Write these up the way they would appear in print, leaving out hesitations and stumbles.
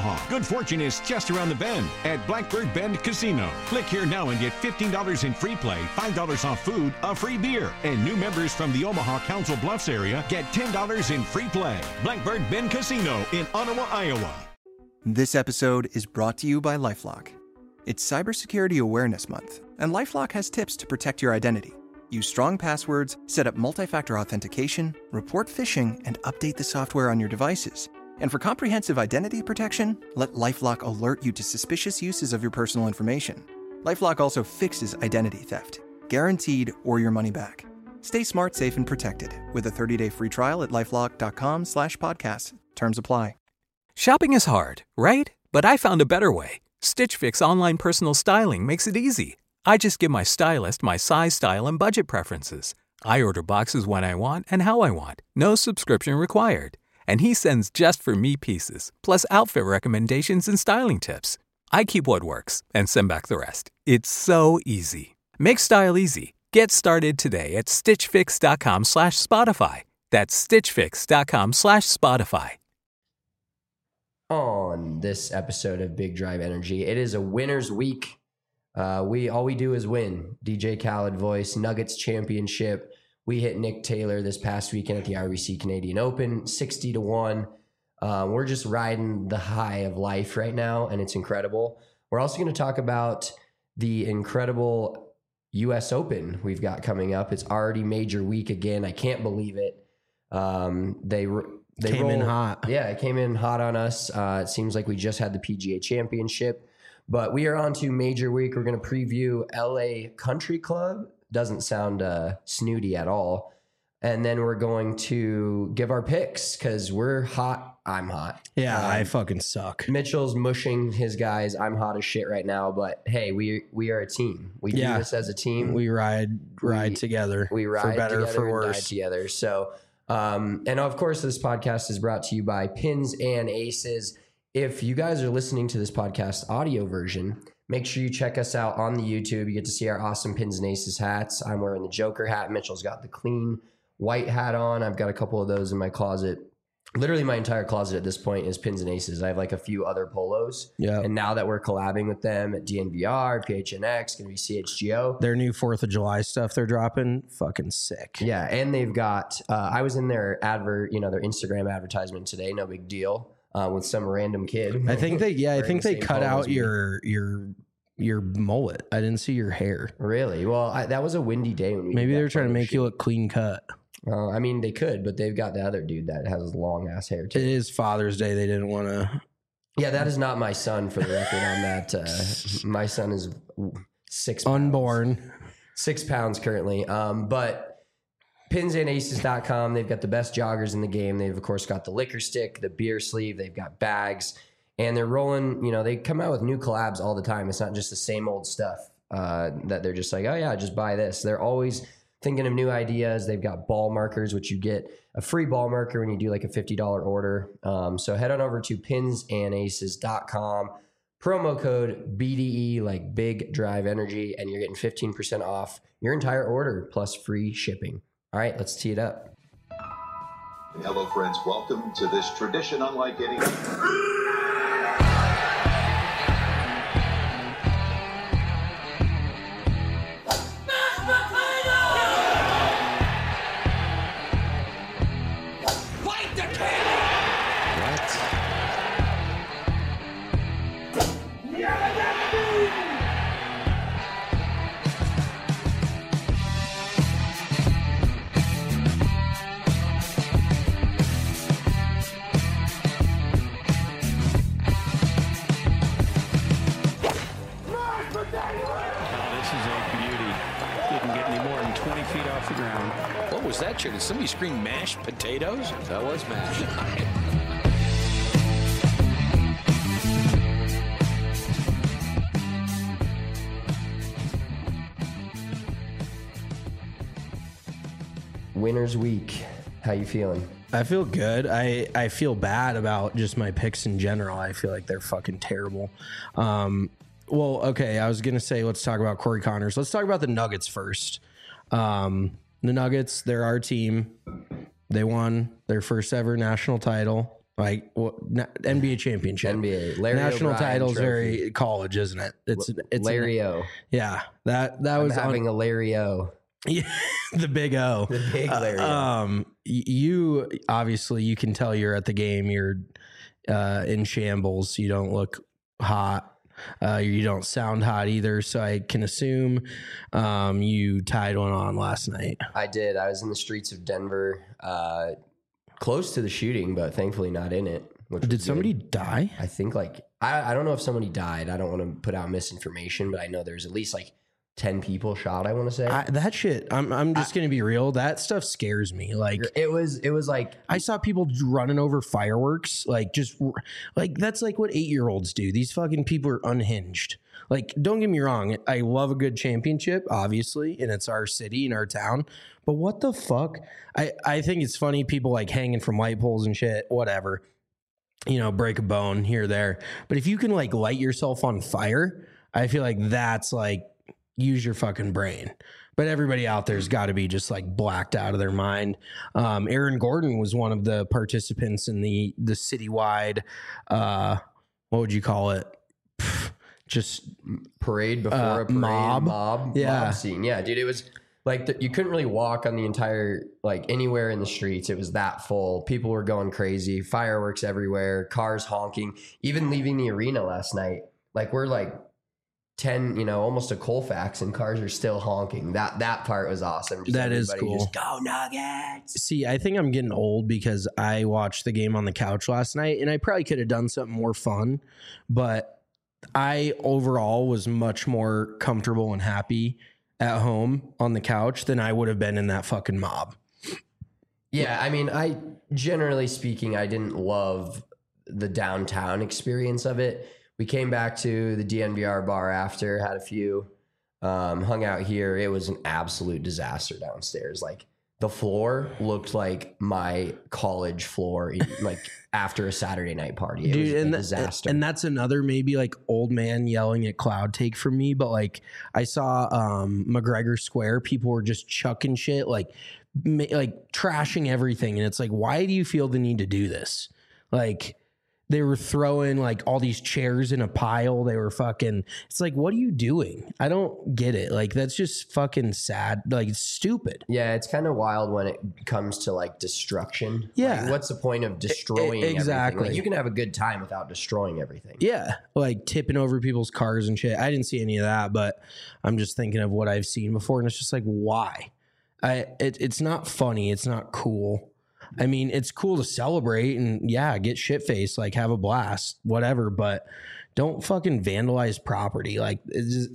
Omaha. Good fortune is just around the bend at Blackbird Bend Casino. Click here now and get $15 in free play, $5 off food, a free beer. And new members from the Omaha Council Bluffs area get $10 in free play. Blackbird Bend Casino in Ottawa, Iowa. This episode is brought to you by LifeLock. It's Cybersecurity Awareness Month, and LifeLock has tips to protect your identity. Use strong passwords, set up multi-factor authentication, report phishing, and update the software on your devices. And for comprehensive identity protection, let LifeLock alert you to suspicious uses of your personal information. LifeLock also fixes identity theft, guaranteed or your money back. Stay smart, safe, and protected with a 30-day free trial at LifeLock.com/podcast. Terms apply. Shopping is hard, right? But I found a better way. Stitch Fix online personal styling makes it easy. I just give my stylist my size, style, and budget preferences. I order boxes when I want and how I want. No subscription required. And he sends just for me pieces, plus outfit recommendations and styling tips. I keep what works and send back the rest. It's so easy. Make style easy. Get started today at stitchfix.com/Spotify. That's stitchfix.com/Spotify. On this episode of Big Drive Energy, it is a winner's week. All we do is win. DJ Khaled voice, Nuggets championship. We hit Nick Taylor this past weekend at the RBC Canadian Open, 60-1. We're just riding the high of life right now, and it's incredible. We're also going to talk about the incredible U.S. Open we've got coming up. It's already major week again. I can't believe it. They came in hot. Yeah, it came in hot on us. It seems like we just had the PGA Championship. But we are on to major week. We're going to preview LA Country Club. Doesn't sound snooty at all. And then we're going to give our picks because we're hot. I'm hot. Yeah, I fucking suck. Mitchell's mushing his guys. I'm hot as shit right now. But hey, we are a team. We do this as a team. We ride together. We ride for better together for and worse. die together. So, and of course, this podcast is brought to you by Pins and Aces. If you guys are listening to this podcast audio version, make sure you check us out on the YouTube. You get to see our awesome Pins and Aces hats. I'm wearing the Joker hat. Mitchell's got the clean white hat on. I've got a couple of those in my closet. Literally my entire closet at this point is Pins and Aces. I have like a few other polos. Yeah. And now that we're collabing with them at DNVR, PHNX, going to be CHGO. Their new 4th of July stuff they're dropping, fucking sick. Yeah. And they've got, I was in their their Instagram advertisement today. No big deal. With some random kid. I think they cut out your mullet. I didn't see your hair. Really? Well, that was a windy day when we maybe they're trying to make you look clean cut. I mean, they could, but they've got the other dude that has long ass hair too. It is Father's Day. They didn't want to. Yeah, that is not my son for the record on that. My son is 6 pounds. Unborn. 6 pounds currently. But pinsandaces.com, they've got the best joggers in the game. They've, of course, got the liquor stick, the beer sleeve. They've got bags. And they're rolling, they come out with new collabs all the time. It's not just the same old stuff that they're just like, oh, yeah, just buy this. They're always thinking of new ideas. They've got ball markers, which you get a free ball marker when you do like a $50 order. So head on over to pinsandaces.com. Promo code BDE, like Big Drive Energy, and you're getting 15% off your entire order plus free shipping. All right, let's tee it up. Hello, friends. Welcome to this tradition unlike any. Did somebody scream mashed potatoes? That was mashed. Winner's week. How you feeling? I feel good. I feel bad about just my picks in general. I feel like they're fucking terrible. Well, okay, I was going to say let's talk about Corey Connors. Let's talk about the Nuggets first. The Nuggets, they're our team. They won their first ever national title. Like NBA championship, NBA Larry national O'Brien title's trophy. very college, isn't it? It's Larry O. Yeah, that I'm was having a Larry O. Yeah, the big O. The big Larry O. You obviously you can tell you're at the game. You're in shambles. You don't look hot. You don't sound hot either. So I can assume you tied one on last night. I did. I was in the streets of Denver, close to the shooting, but thankfully not in it. Did somebody die? I think I don't know if somebody died. I don't want to put out misinformation, but I know there's at least 10 people shot, I want to say. That shit, I'm just going to be real. That stuff scares me. Like it was like I saw people running over fireworks. That's like what 8-year-olds do. These fucking people are unhinged. Like, don't get me wrong. I love a good championship, obviously, and it's our city and our town. But what the fuck? I think it's funny. People like hanging from light poles and shit, whatever, break a bone here or there. But if you can like light yourself on fire, I feel like that's like, use your fucking brain. But everybody out there's got to be just like blacked out of their mind. Aaron Gordon was one of the participants in the citywide, what would you call it? Just parade before a parade mob scene. Yeah, dude, it was like you couldn't really walk on the entire, like anywhere in the streets. It was that full. People were going crazy, fireworks everywhere, cars honking. Even leaving the arena last night, like we're like 10, almost a Colfax, and cars are still honking. That part was awesome. That is cool. Just go Nuggets. See, I think I'm getting old because I watched the game on the couch last night, and I probably could have done something more fun, but I overall was much more comfortable and happy at home on the couch than I would have been in that fucking mob. Yeah, I mean, generally speaking, I didn't love the downtown experience of it. We came back to the DNVR bar after, had a few, hung out here. It was an absolute disaster downstairs. Like the floor looked like my college floor, like after a Saturday night party. It was a disaster. And that's another maybe like old man yelling at cloud take from me. But like I saw McGregor Square, people were just chucking shit, like trashing everything. And it's like, why do you feel the need to do this? Like, they were throwing like all these chairs in a pile. They were fucking, it's like, what are you doing? I don't get it. Like, that's just fucking sad. Like, it's stupid. Yeah, it's kind of wild when it comes to like destruction. Yeah. Like, what's the point of destroying exactly. everything? Like, you can have a good time without destroying everything. Yeah. Like tipping over people's cars and shit. I didn't see any of that, but I'm just thinking of what I've seen before. And it's just like, why? It's not funny. It's not cool. I mean, it's cool to celebrate and get shit-faced, like have a blast, whatever, but don't fucking vandalize property. Like, is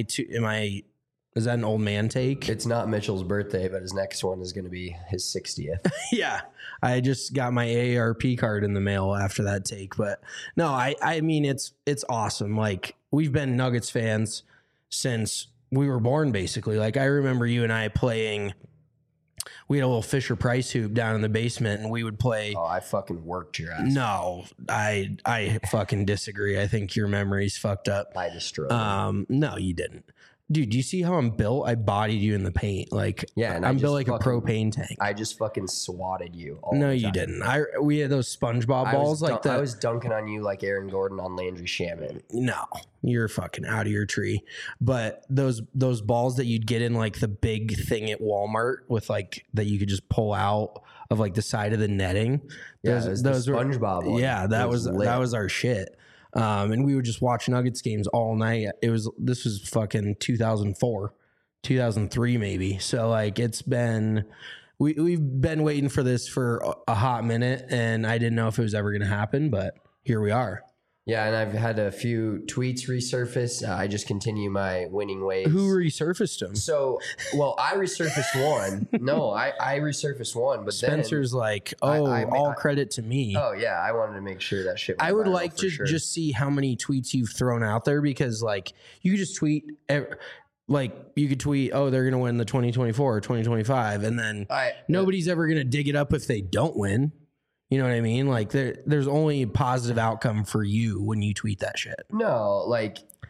that an old man take? It's not Mitchell's birthday, but his next one is going to be his 60th. Yeah. I just got my AARP card in the mail after that take, but no, I mean, it's awesome. Like, we've been Nuggets fans since we were born, basically. Like, I remember you and I playing. We had a little Fisher Price hoop down in the basement, and we would play. Oh, I fucking worked your ass. No, I fucking disagree. I think your memory's fucked up. I destroyed it. No, you didn't. Dude, do you see how I'm built? I bodied you in the paint. Like, yeah, and I'm built like a propane tank. I just fucking swatted you all No, the you time. didn't. We had those SpongeBob balls I was dunking on you like Aaron Gordon on Landry Shaman. No, you're fucking out of your tree. But those balls that you'd get in like the big thing at Walmart with like that you could just pull out of like the side of the netting. Yeah, those the were SpongeBob one. Yeah, that was our shit. And we would just watch Nuggets games all night. This was fucking 2004, 2003 maybe. So like it's been, we've been waiting for this for a hot minute, and I didn't know if it was ever going to happen, but here we are. Yeah, and I've had a few tweets resurface. I just continue my winning ways. Who resurfaced them? So, well, I resurfaced one. No, I resurfaced one, but Spencer's then, like, all credit to me. Oh yeah, I wanted to make sure that shit. I would like to just see how many tweets you've thrown out there, because like you could just tweet. Like you could tweet, oh, they're going to win the 2024 or 2025, and then nobody's ever going to dig it up if they don't win. You know what I mean? Like there's only a positive outcome for you when you tweet that shit. No, like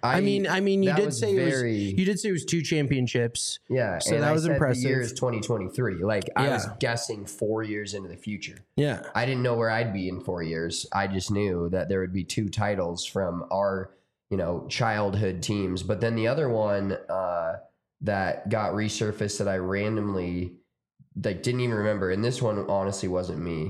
I mean, you that did was say very- it was 2 championships. Yeah, so and that I was said impressive. The year is 2023. Like I was Yeah. guessing 4 years into the future. Yeah, I didn't know where I'd be in 4 years. I just knew that there would be 2 titles from our, childhood teams. But then the other one that got resurfaced that I randomly didn't even remember, and this one honestly wasn't me.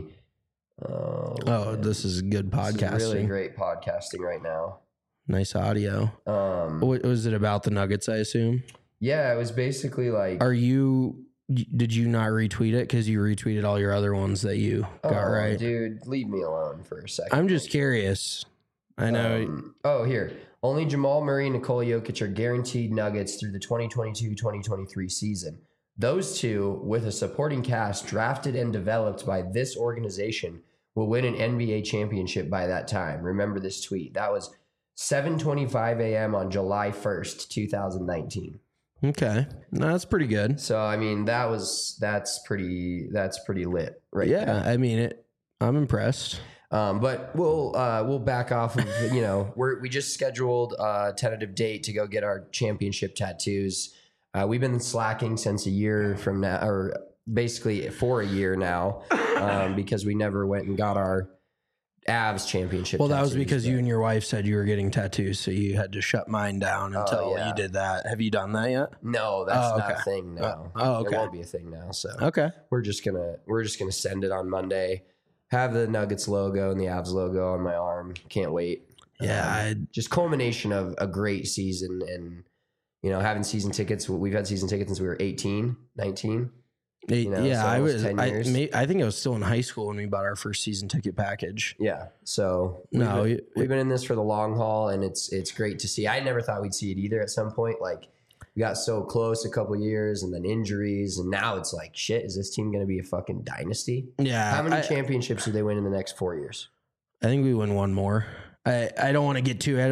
Oh, this is good podcasting. This is really great podcasting right now. Nice audio. What was it about the Nuggets, I assume? Yeah, it was basically like... Did you not retweet it? Because you retweeted all your other ones that you got right. Dude, leave me alone for a second. I'm just curious. I know. Here. Only Jamal Murray and Nikola Jokic are guaranteed Nuggets through the 2022-2023 season. Those 2, with a supporting cast drafted and developed by this organization, will win an NBA championship by that time. Remember this tweet. That was 7:25 a.m. on July 1st, 2019. Okay. No, that's pretty good. So, I mean, that's pretty lit right Yeah, there. I mean it. I'm impressed. But we'll back off of, we just scheduled a tentative date to go get our championship tattoos. We've been slacking since a year from now, or basically for a year now, because we never went and got our Avs championship. Well, that was tattoos, because you and your wife said you were getting tattoos, so you had to shut mine down until you did that. Have you done that yet? No, that's not a thing now. Okay. It won't be a thing now. So Okay. we're just gonna send it on Monday. Have the Nuggets logo and the Avs logo on my arm. Can't wait. Yeah, just culmination of a great season, and having season tickets. We've had season tickets since we were 18, 19. I was. 10 years. I think I was still in high school when we bought our first season ticket package. Yeah. So we've been in this for the long haul, and it's great to see. I never thought we'd see it either. At some point, like we got so close a couple years, and then injuries, and now it's like, shit, is this team going to be a fucking dynasty? Yeah. How many championships do they win in the next 4 years? I think we win one more. I don't want to get too ahead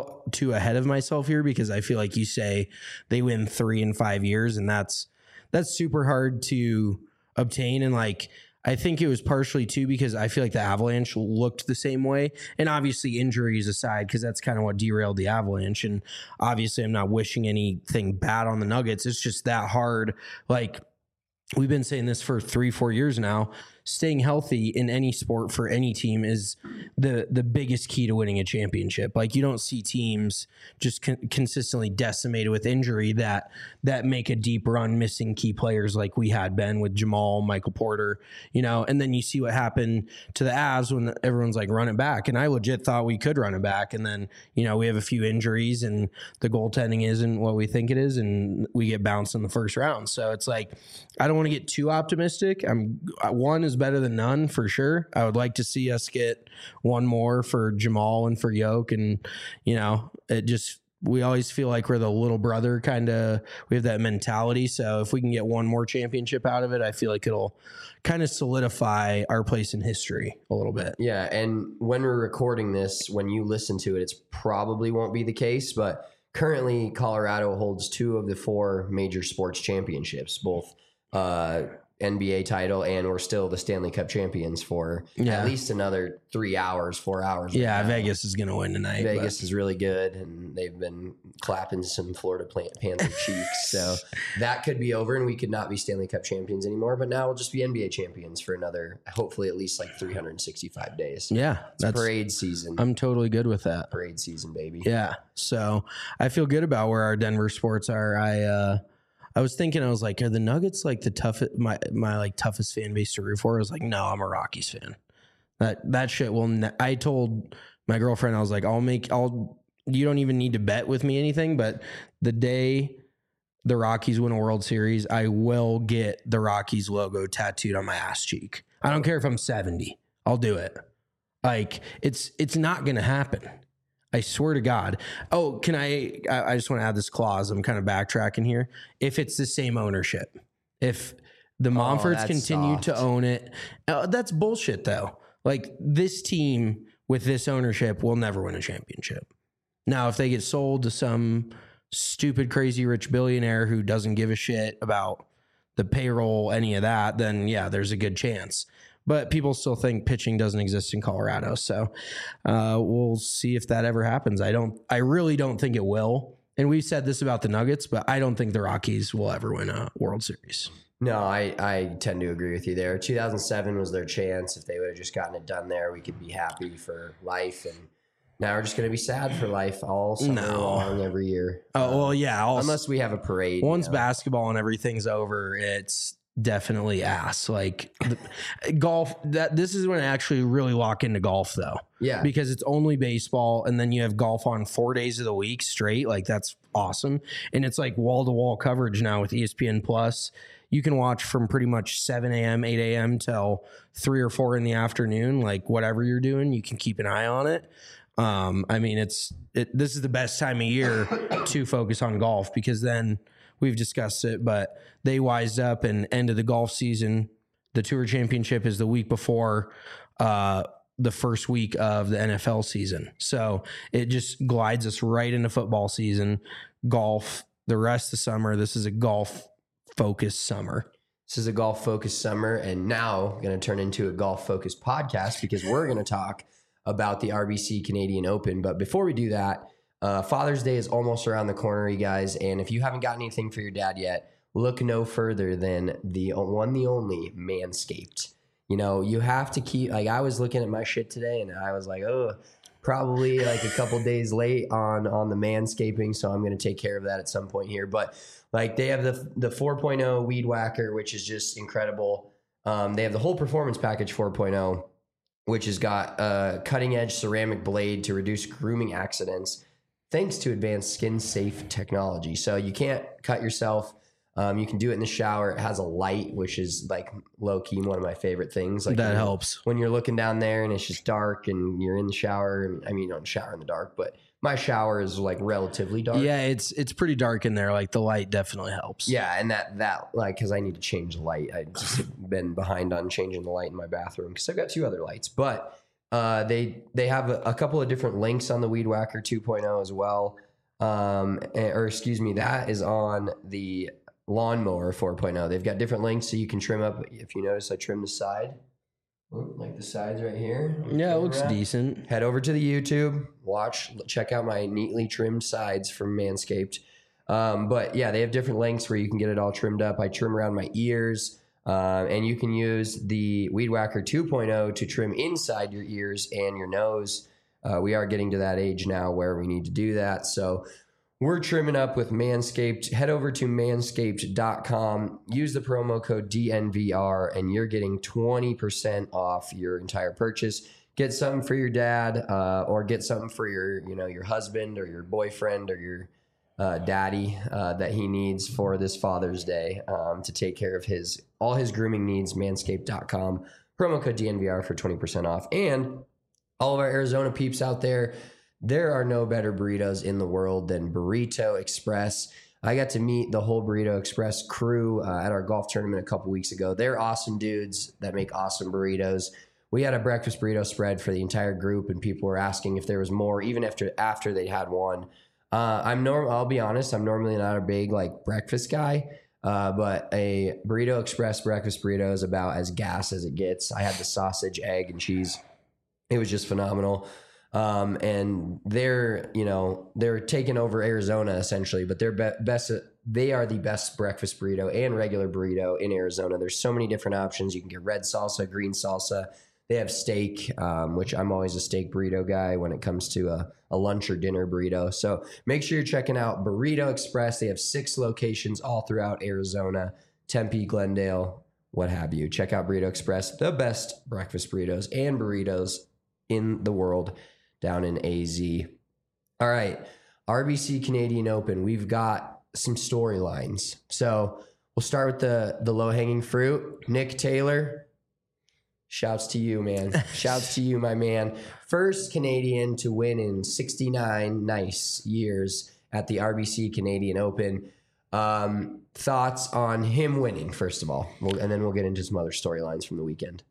of myself here, because I feel like you say they win 3 in 5 years, and that's super hard to obtain. And like, I think it was partially too because I feel like the Avalanche looked the same way, and obviously injuries aside, because that's kind of what derailed the Avalanche. And obviously I'm not wishing anything bad on the Nuggets. It's just that hard. Like, we've been saying this for 3-4 years now. Staying healthy in any sport for any team is the biggest key to winning a championship. Like, you don't see teams just consistently decimated with injury that make a deep run missing key players like we had, Ben, with Jamal, Michael Porter, and then you see what happened to the Avs when everyone's like, run it back. And I legit thought we could run it back. And then, we have a few injuries and the goaltending isn't what we think it is, and we get bounced in the first round. So it's like, I don't want to get too optimistic. One is better than none for sure. I would like to see us get one more for Jamal and for Yoke, and we always feel like we're the little brother kind of. We have that mentality. So if we can get one more championship out of it, I feel like it'll kind of solidify our place in history a little bit. Yeah, and when we're recording this, when you listen to it, it's probably won't be the case, but currently Colorado holds 2 of the 4 major sports championships, both NBA title, and we're still the Stanley Cup champions for at least another 3 hours, 4 hours. Yeah, Vegas is going to win tonight. Vegas is really good, and they've been clapping some Florida Panther cheeks. So that could be over, and we could not be Stanley Cup champions anymore. But now we'll just be NBA champions for another, hopefully at least like 365 days. Yeah, that's parade season. I'm totally good with that. Parade season, baby. Yeah, so I feel good about where our Denver sports are. I was thinking, I was like, are the Nuggets like the toughest, my like toughest fan base to root for? I was like, no, I'm a Rockies fan. That shit will. I told my girlfriend, I was like, you don't even need to bet with me anything, but the day the Rockies win a World Series, I will get the Rockies logo tattooed on my ass cheek. I don't care if I'm 70. I'll do it. Like, it's not going to happen. I swear to God. Oh, can I just want to add this clause. I'm kind of backtracking here. If it's the same ownership, if the Monforts continue to own it, that's bullshit though. Like, this team with this ownership will never win a championship. Now, if they get sold to some stupid, crazy rich billionaire who doesn't give a shit about the payroll, any of that, then yeah, there's a good chance. But people still think pitching doesn't exist in Colorado. So we'll see if that ever happens. I really don't think it will. And we've said this about the Nuggets, but I don't think the Rockies will ever win a World Series. No, I tend to agree with you there. 2007 was their chance. If they would have just gotten it done there, we could be happy for life. And now we're just going to be sad for life all summer long every year. Oh, well, yeah. Unless we have a parade. Once basketball and everything's over, it's definitely ass. Like golf, this is when I actually really lock into golf, though. Yeah. Because it's only baseball, and then you have golf on 4 days of the week straight. Like, that's awesome. And it's like wall-to-wall coverage now with ESPN Plus. You can watch from pretty much 7 a.m., 8 a.m. till 3 or 4 in the afternoon. Like, whatever you're doing, you can keep an eye on it. I mean, this is the best time of year to focus on golf, because then we've discussed it, but they wised up and end of the golf season. The Tour Championship is the week before the first week of the NFL season. So it just glides us right into football season, golf, the rest of the summer. This is a golf-focused summer. This is a golf-focused summer, and now going to turn into a golf-focused podcast, because we're going to talk about the RBC Canadian Open. But before we do that, Father's Day is almost around the corner, you guys. And if you haven't got anything for your dad yet, look no further than the only Manscaped. You know, you have to keep, like, I was looking at my shit today and I was like, oh, probably like a couple days late on the manscaping. So I'm going to take care of that at some point here. But like, they have the 4.0 Weed Whacker, which is just incredible. They have the whole performance package 4.0, which has got a cutting edge ceramic blade to reduce grooming accidents, thanks to advanced skin-safe technology. So you can't cut yourself. You can do it in the shower. It has a light, which is like low-key one of my favorite things. Like that helps. When you're looking down there and it's just dark and you're in the shower. And I mean, you don't shower in the dark, but my shower is like relatively dark. Yeah, it's pretty dark in there. Like, the light definitely helps. Yeah, and that like, because I need to change the light. I've just been behind on changing the light in my bathroom because I've got 2 other lights. But they have a couple of different links on the Weed Whacker 2.0 as well. That is on the Lawnmower 4.0. They've got different links so you can trim up. If you notice, I trimmed the side. Like the sides right here. Yeah, it looks decent. Head over to the YouTube, check out my neatly trimmed sides from Manscaped. But yeah, they have different lengths where you can get it all trimmed up. I trim around my ears, and you can use the Weed Whacker 2.0 to trim inside your ears and your nose. We are getting to that age now where we need to do that. So we're trimming up with Manscaped. Head over to manscaped.com. Use the promo code DNVR, and you're getting 20% off your entire purchase. Get something for your dad, or get something for your husband or your boyfriend or your daddy that he needs for this Father's Day to take care of all his grooming needs. Manscaped.com. Promo code DNVR for 20% off. And all of our Arizona peeps out there, there are no better burritos in the world than Burrito Express. I got to meet the whole Burrito Express crew at our golf tournament a couple weeks ago. They're awesome dudes that make awesome burritos. We had a breakfast burrito spread for the entire group, and people were asking if there was more, even after they had one. I'll be honest, I'm normally not a big like breakfast guy, but a Burrito Express breakfast burrito is about as gas as it gets. I had the sausage, egg, and cheese. It was just phenomenal. And they're taking over Arizona essentially, but they are the best breakfast burrito and regular burrito in Arizona. There's so many different options. You can get red salsa, green salsa. They have steak, which I'm always a steak burrito guy when it comes to a lunch or dinner burrito. So make sure you're checking out Burrito Express. They have 6 locations all throughout Arizona, Tempe, Glendale, what have you. Check out Burrito Express, the best breakfast burritos and burritos in the world down in AZ. All right, RBC Canadian Open. We've got some storylines. So we'll start with the low-hanging fruit. Nick Taylor, shouts to you, man. Shouts to you, my man. First Canadian to win in 69 nice years at the RBC Canadian Open. Thoughts on him winning, first of all, and then we'll get into some other storylines from the weekend.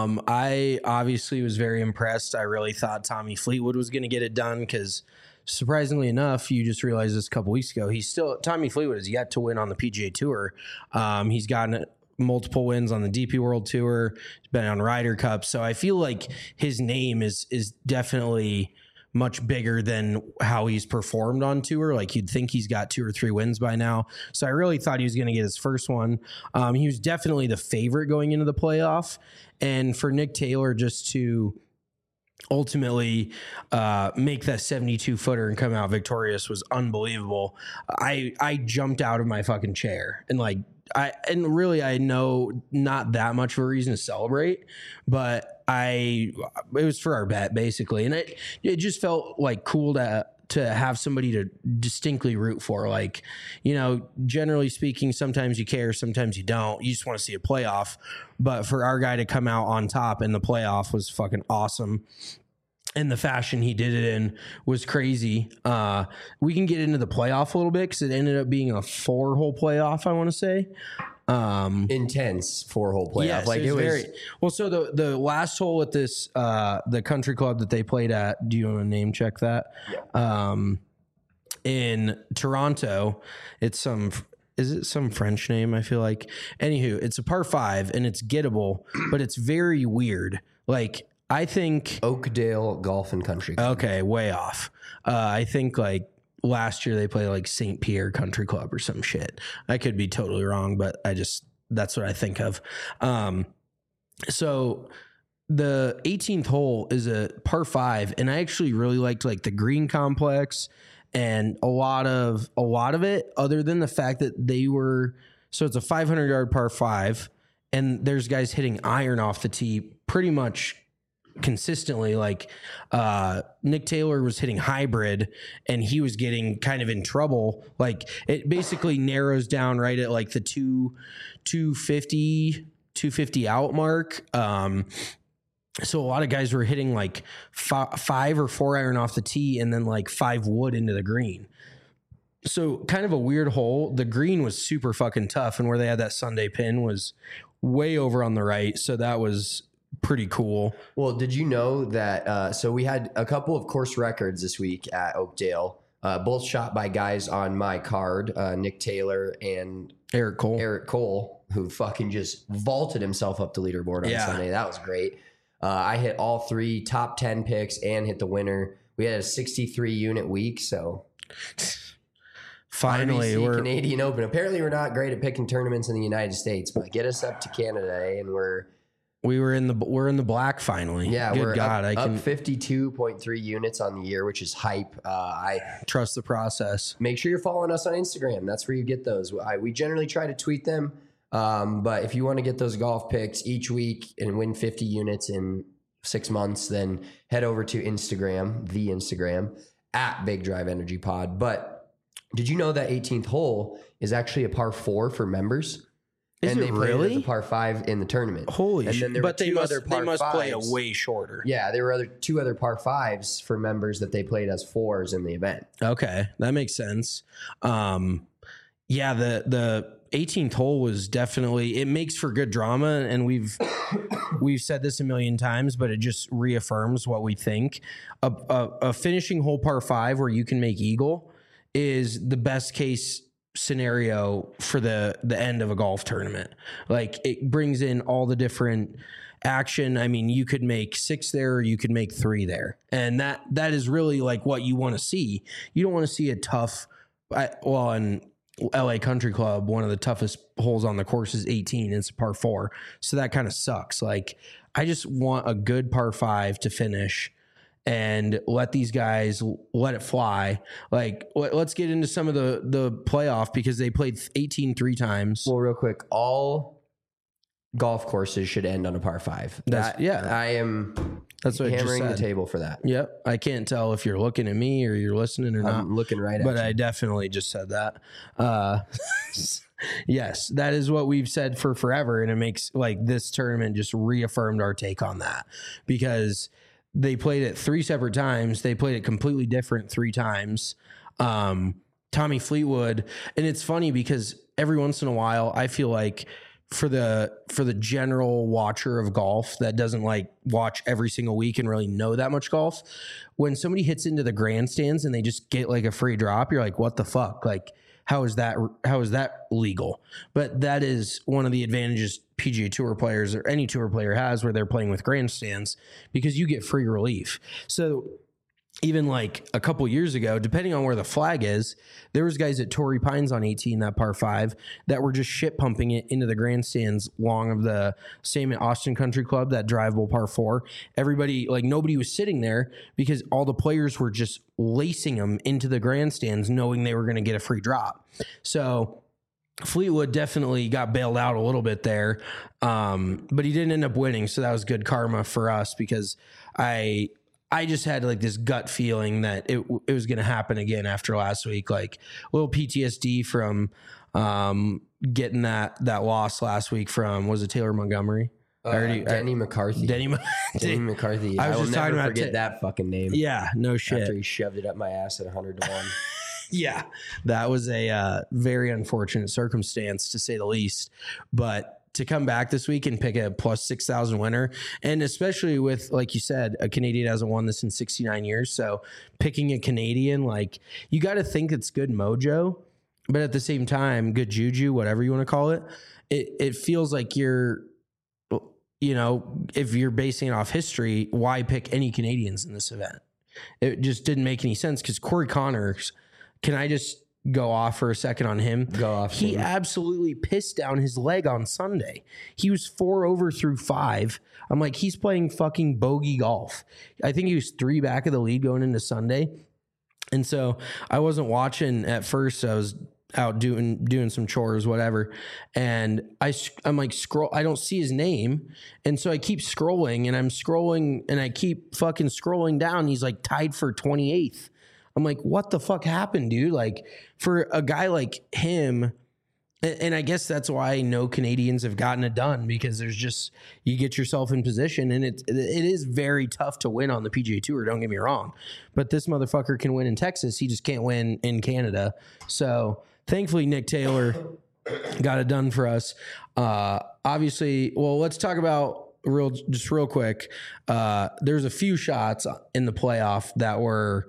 I obviously was very impressed. I really thought Tommy Fleetwood was going to get it done because, surprisingly enough, you just realized this a couple weeks ago, Tommy Fleetwood is yet to win on the PGA Tour. He's gotten multiple wins on the DP World Tour. He's been on Ryder Cup. So I feel like his name is definitely much bigger than how he's performed on tour. Like you'd think he's got 2 or 3 wins by now. So I really thought he was going to get his first one. He was definitely the favorite going into the playoff. And for Nick Taylor just to ultimately make that 72 footer and come out victorious was unbelievable. I jumped out of my fucking chair and I know not that much of a reason to celebrate, but it was for our bet basically. And it just felt like cool to have somebody to distinctly root for. Like, you know, generally speaking, sometimes you care, sometimes you don't. You just want to see a playoff. But for our guy to come out on top in the playoff was fucking awesome. And the fashion he did it in was crazy. We can get into the playoff a little bit because it ended up being a 4-hole playoff, I want to say. Intense 4-hole playoff. Yes, like it was very well. So the last hole at this the country club that they played at. Do you want to name check that? Yeah. In Toronto, it's some. Is it some French name? I feel like. Anywho, it's a par 5 and it's gettable, but it's very weird. Like I think Oakdale Golf and Country Club. Okay, way off. I think like last year they played like St. Pierre Country Club or some shit. I could be totally wrong, but that's what I think of. So the 18th hole is a par 5, and I actually really liked like the green complex and a lot of it, other than the fact that so it's a 500-yard par 5, and there's guys hitting iron off the tee pretty much consistently. Like Nick Taylor was hitting hybrid and he was getting kind of in trouble. Like it basically narrows down right at like the 250 out mark. So a lot of guys were hitting like 5 or 4 iron off the tee and then like 5 wood into the green. So kind of a weird hole. The green was super fucking tough, and where they had that Sunday pin was way over on the right. So that was pretty cool. Well, did you know that? So we had a couple of course records this week at Oakdale, both shot by guys on my card, Nick Taylor and Eric Cole, who fucking just vaulted himself up the leaderboard on Sunday. That was great. I hit all 3 top 10 picks and hit the winner. We had a 63 unit week, so finally we're Canadian Open. Apparently, we're not great at picking tournaments in the United States, but get us up to Canada, and we're in the black finally. Yeah, we're up 52.3 units on the year, which is hype. I trust the process. Make sure you're following us on Instagram. That's where you get those. We generally try to tweet them, but if you want to get those golf picks each week and win 50 units in 6 months, then head over to Instagram at Big Drive Energy Pod. But did you know that 18th hole is actually a par 4 for members? And they played as a par 5 in the tournament. Holy shit. But they must play a fives. way shorter. Yeah, there were 2 other par 5s for members that they played as 4s in the event. Okay, that makes sense. Yeah, the 18th hole was definitely, it makes for good drama, and we've said this a million times, but it just reaffirms what we think. A finishing hole par 5 where you can make eagle is the best case scenario for the end of a golf tournament. Like it brings in all the different action. I mean, you could make 6 there, or you could make 3 there, and that is really like what you want to see. You don't want to see a tough. In LA Country Club, one of the toughest holes on the course is 18. It's a par 4, so that kind of sucks. Like I just want a good par 5 to finish and let these guys let it fly. Like, let's get into some of the playoff, because they played 18 3 times. Well, real quick, all golf courses should end on a par 5. That's what hammering the table for that. Yep. I can't tell if you're looking at me or you're listening or not. I'm looking right at you. But I definitely just said that. Yes, that is what we've said for forever. And it makes like this tournament just reaffirmed our take on that, because they played it 3 separate times. They played it completely different 3 times. Tommy Fleetwood. And it's funny because every once in a while, I feel like for the general watcher of golf that doesn't like watch every single week and really know that much golf, when somebody hits into the grandstands and they just get like a free drop, you're like, what the fuck? Like, how is that legal? But that is one of the advantages PGA Tour players or any tour player has where they're playing with grandstands, because you get free relief. So even like a couple years ago, depending on where the flag is, there was guys at Torrey Pines on 18, that par 5, that were just shit pumping it into the grandstands long of the same at Austin Country Club, that drivable par 4. Everybody, like nobody was sitting there because all the players were just lacing them into the grandstands knowing they were going to get a free drop. So Fleetwood definitely got bailed out a little bit there, but he didn't end up winning. So that was good karma for us, because I just had like this gut feeling that it was going to happen again after last week. Like a little PTSD from getting that loss last week from, was it Taylor Montgomery? Denny McCarthy. Denny McCarthy. I will never forget that fucking name. Yeah, no shit. After he shoved it up my ass at 100-1. Yeah, that was a very unfortunate circumstance, to say the least. But to come back this week and pick a plus 6,000 winner, and especially with, like you said, a Canadian hasn't won this in 69 years. So picking a Canadian, like, you got to think it's good mojo, but at the same time, good juju, whatever you want to call it. It feels like you're, you know, if you're basing it off history, why pick any Canadians in this event? It just didn't make any sense, because Corey Connors, can I just go off for a second on him? Go off. He absolutely pissed down his leg on Sunday. He was 4 over through 5. I'm like, he's playing fucking bogey golf. I think he was 3 back of the lead going into Sunday. And so I wasn't watching at first. I was out doing some chores, whatever. And I'm like, scroll. I don't see his name. And so I keep scrolling, and I'm scrolling, and I keep fucking scrolling down. He's like tied for 28th. I'm like, what the fuck happened, dude? Like, for a guy like him, and I guess that's why no Canadians have gotten it done, because there's just, you get yourself in position, and it is very tough to win on the PGA Tour, don't get me wrong. But this motherfucker can win in Texas. He just can't win in Canada. So thankfully, Nick Taylor got it done for us. Obviously, well, let's talk about real quick. There's a few shots in the playoff that were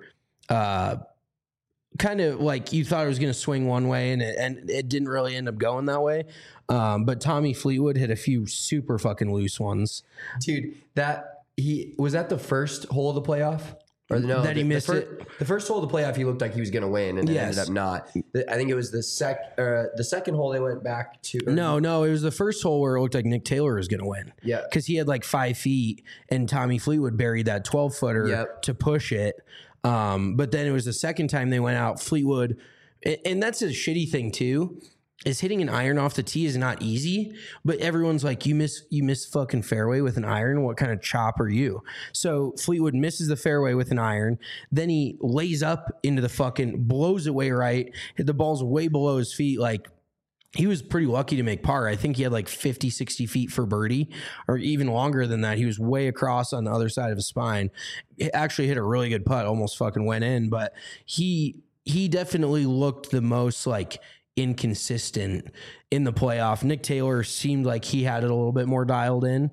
kind of like you thought it was going to swing one way, and it didn't really end up going that way. But Tommy Fleetwood hit a few super fucking loose ones. Dude, was that the first hole of the playoff? Or no, that he missed it. The first hole of the playoff, he looked like he was going to win, and it ended up not. I think it was the second hole they went back to. No, it was the first hole where it looked like Nick Taylor was going to win. Yeah, because he had like 5 feet, and Tommy Fleetwood buried that 12-footer to push it. But then it was the second time they went out, Fleetwood, and that's a shitty thing too, is hitting an iron off the tee is not easy, but everyone's like, you miss fucking fairway with an iron. What kind of chop are you? So Fleetwood misses the fairway with an iron. Then he lays up into the fucking, blows it way right. The ball's way below his feet. Like, he was pretty lucky to make par. I think he had like 50, 60 feet for birdie, or even longer than that. He was way across on the other side of his spine. He actually hit a really good putt, almost fucking went in, but he definitely looked the most like inconsistent in the playoff. Nick Taylor seemed like he had it a little bit more dialed in.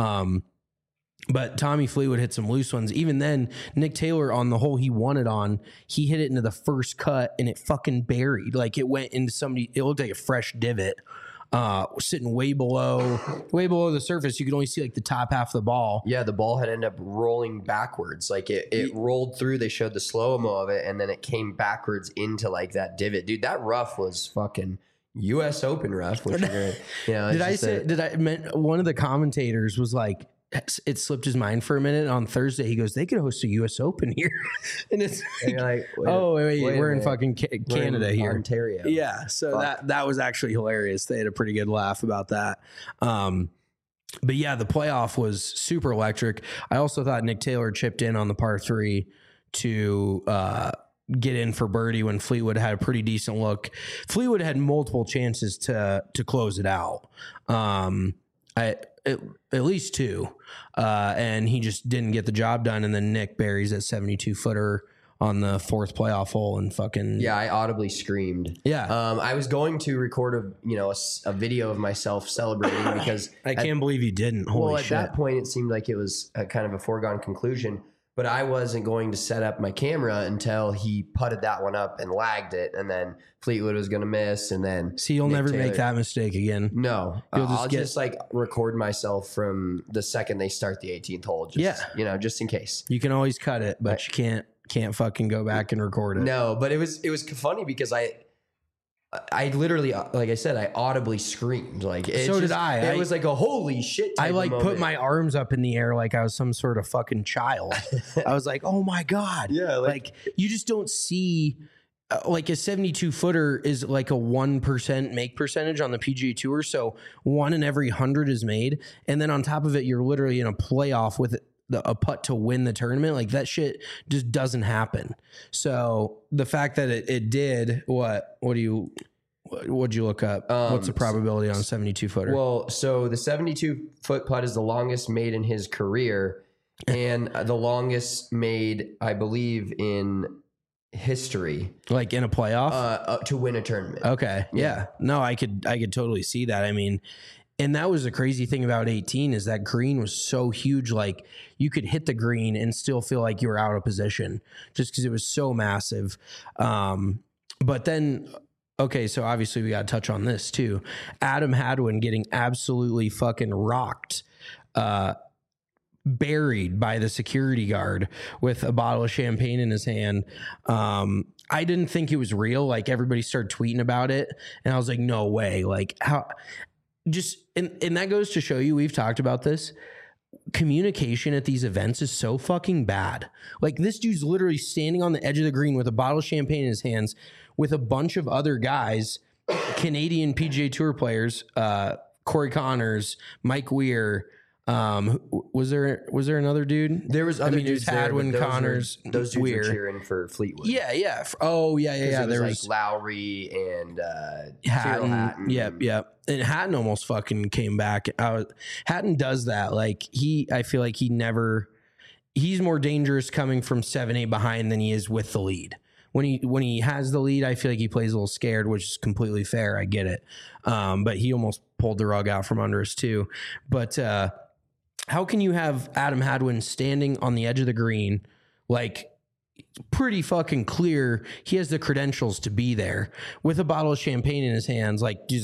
But Tommy Fleetwood hit some loose ones. Even then, Nick Taylor, on the hole he won it on, he hit it into the first cut, and it fucking buried. Like, it went into somebody, it looked like a fresh divot, sitting way below the surface. You could only see like the top half of the ball. Yeah, the ball had ended up rolling backwards. Like, it rolled through. They showed the slow-mo of it, and then it came backwards into like that divot. Dude, that rough was fucking U.S. Open rough. Which One of the commentators was like, it slipped his mind for a minute on Thursday. He goes, they could host a U.S. Open here. And it's like, wait, we're in fucking Canada here. Ontario. Yeah. So that was actually hilarious. They had a pretty good laugh about that. But yeah, the playoff was super electric. I also thought Nick Taylor chipped in on the par 3 to get in for birdie when Fleetwood had a pretty decent look. Fleetwood had multiple chances to close it out. At least 2, and he just didn't get the job done. And then Nick buries that 72-footer on the 4th playoff hole, and fucking I audibly screamed. I was going to record a video of myself celebrating because I can't believe you didn't. Holy shit! At that point, it seemed like it was a kind of a foregone conclusion. but I wasn't going to set up my camera until he putted that one up and lagged it, and then Fleetwood was going to miss, and then See, you'll Nick never Taylor. make that mistake again. No, You'll just I'll get- just like record myself from the second they start the 18th hole. Just, just in case. You can always cut it, but you can't fucking go back and record it. No, but it was funny because I literally, like I said, I audibly screamed. Like So did I. It was like a holy shit. I type like of put moment. my arms up in the air like I was some sort of fucking child. I was like, oh my God. Yeah, Like you just don't see like a 72 footer is like a 1% make percentage on the PGA Tour. So 1 in every 100 is made. And then on top of it, you're literally in a playoff with a putt to win the tournament. Like that shit just doesn't happen. So the fact that it did, what'd you look up? What's the probability on a 72 footer? Well, so the 72-foot putt is the longest made in his career, and the longest made, I believe, in history like in a playoff? to win a tournament. Okay. Yeah. No, I could totally see that. I mean, and that was the crazy thing about 18 is that green was so huge. Like you could hit the green and still feel like you were out of position just because it was so massive. But then, okay, so obviously we got to touch on this too. Adam Hadwin getting absolutely fucking rocked, buried by the security guard with a bottle of champagne in his hand. I didn't think it was real. Like everybody started tweeting about it, and I was like, no way. Like how? Just and that goes to show you, we've talked about this. Communication at these events is so fucking bad. Like this dude's literally standing on the edge of the green with a bottle of champagne in his hands with a bunch of other guys, Canadian PGA Tour players, Corey Connors, Mike Weir. Was there another dude? There was other dudes. dudes there, Hadwin, but Connors, those dudes Weir. were cheering for Fleetwood. Yeah. It There was was like Lowry and Hatton. Cyril Hatton. Yep. And Hatton almost fucking came back. Hatton does that. Like I feel like he's more dangerous coming from 7-8 behind than he is with the lead. When he has the lead, I feel like he plays a little scared, which is completely fair. I get it. But he almost pulled the rug out from under us too. But how can you have Adam Hadwin standing on the edge of the green, like pretty fucking clear he has the credentials to be there with a bottle of champagne in his hands? Like, do you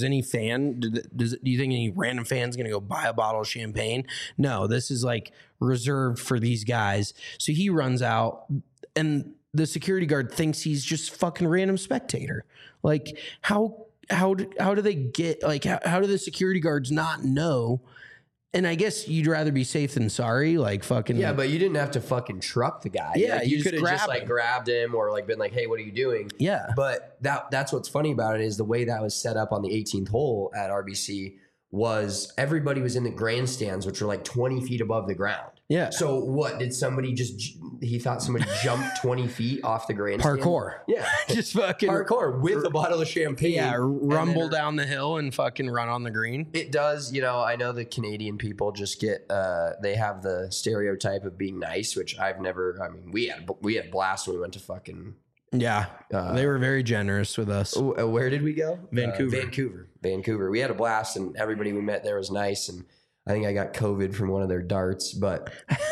think any random fan's going to go buy a bottle of champagne? No, this is like reserved for these guys. So he runs out and the security guard thinks he's just fucking random spectator. Like how do they get, like, how do the security guards not know? And I guess you'd rather be safe than sorry, like fucking. Yeah, but you didn't have to fucking truck the guy. Yeah, like, you you just could have just grab like him. grabbed him or like been like, "Hey, what are you doing?" Yeah. But that's what's funny about it is the way that was set up on the 18th hole at RBC was everybody was in the grandstands, which were like 20 feet above the ground. Yeah. So what did somebody he thought somebody jumped 20 feet off the grandstand? Parkour. Yeah. Just fucking Parkour with a bottle of champagne. Yeah, and rumble then down the hill and fucking run on the green. It does, I know the Canadian people just get, they have the stereotype of being nice, which we had a blast when we went to fucking. Yeah, they were very generous with us. Where did we go? Vancouver. We had a blast and everybody we met there was nice. And I think I got COVID from one of their darts, but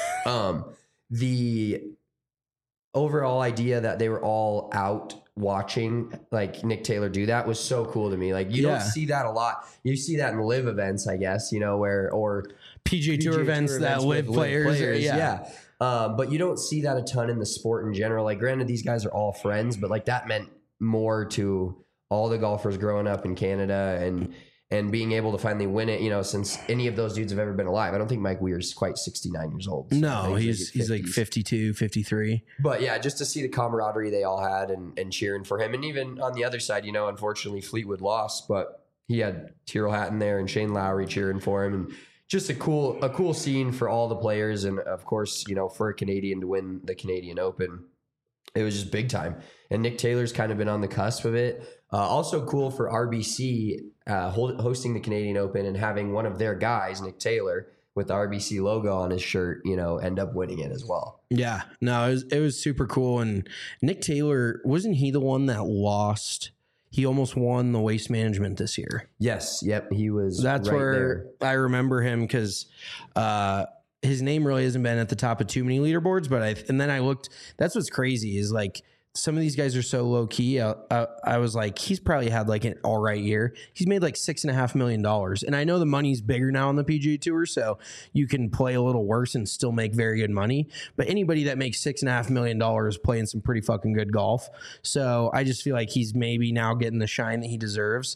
the overall idea that they were all out watching like Nick Taylor do that was so cool to me. Like you don't see that a lot. You see that in live events, I guess, or PGA Tour events that live players. Yeah. But you don't see that a ton in the sport in general. Like granted, these guys are all friends, but like that meant more to all the golfers growing up in Canada and being able to finally win it, since any of those dudes have ever been alive. I don't think Mike Weir's quite 69 years old. So no, he's like 52, 53. But yeah, just to see the camaraderie they all had and cheering for him. And even on the other side, unfortunately Fleetwood lost, but he had Tyrrell Hatton there and Shane Lowry cheering for him. And just a cool scene for all the players. And of course, for a Canadian to win the Canadian Open, it was just big time. And Nick Taylor's kind of been on the cusp of it. Also cool for RBC hosting the Canadian Open and having one of their guys, Nick Taylor, with the RBC logo on his shirt, end up winning it as well. Yeah, no, it was super cool. And Nick Taylor, wasn't he the one that lost? He almost won the Waste Management this year. Yes. Yep. He was. That's right where there. I remember him because his name really hasn't been at the top of too many leaderboards, but and then I looked, that's what's crazy is like some of these guys are so low key. I was like, he's probably had like an all right year. He's made like $6.5 million. And I know the money's bigger now on the PGA Tour, so you can play a little worse and still make very good money. But anybody that makes $6.5 million playing some pretty fucking good golf. So I just feel like he's maybe now getting the shine that he deserves.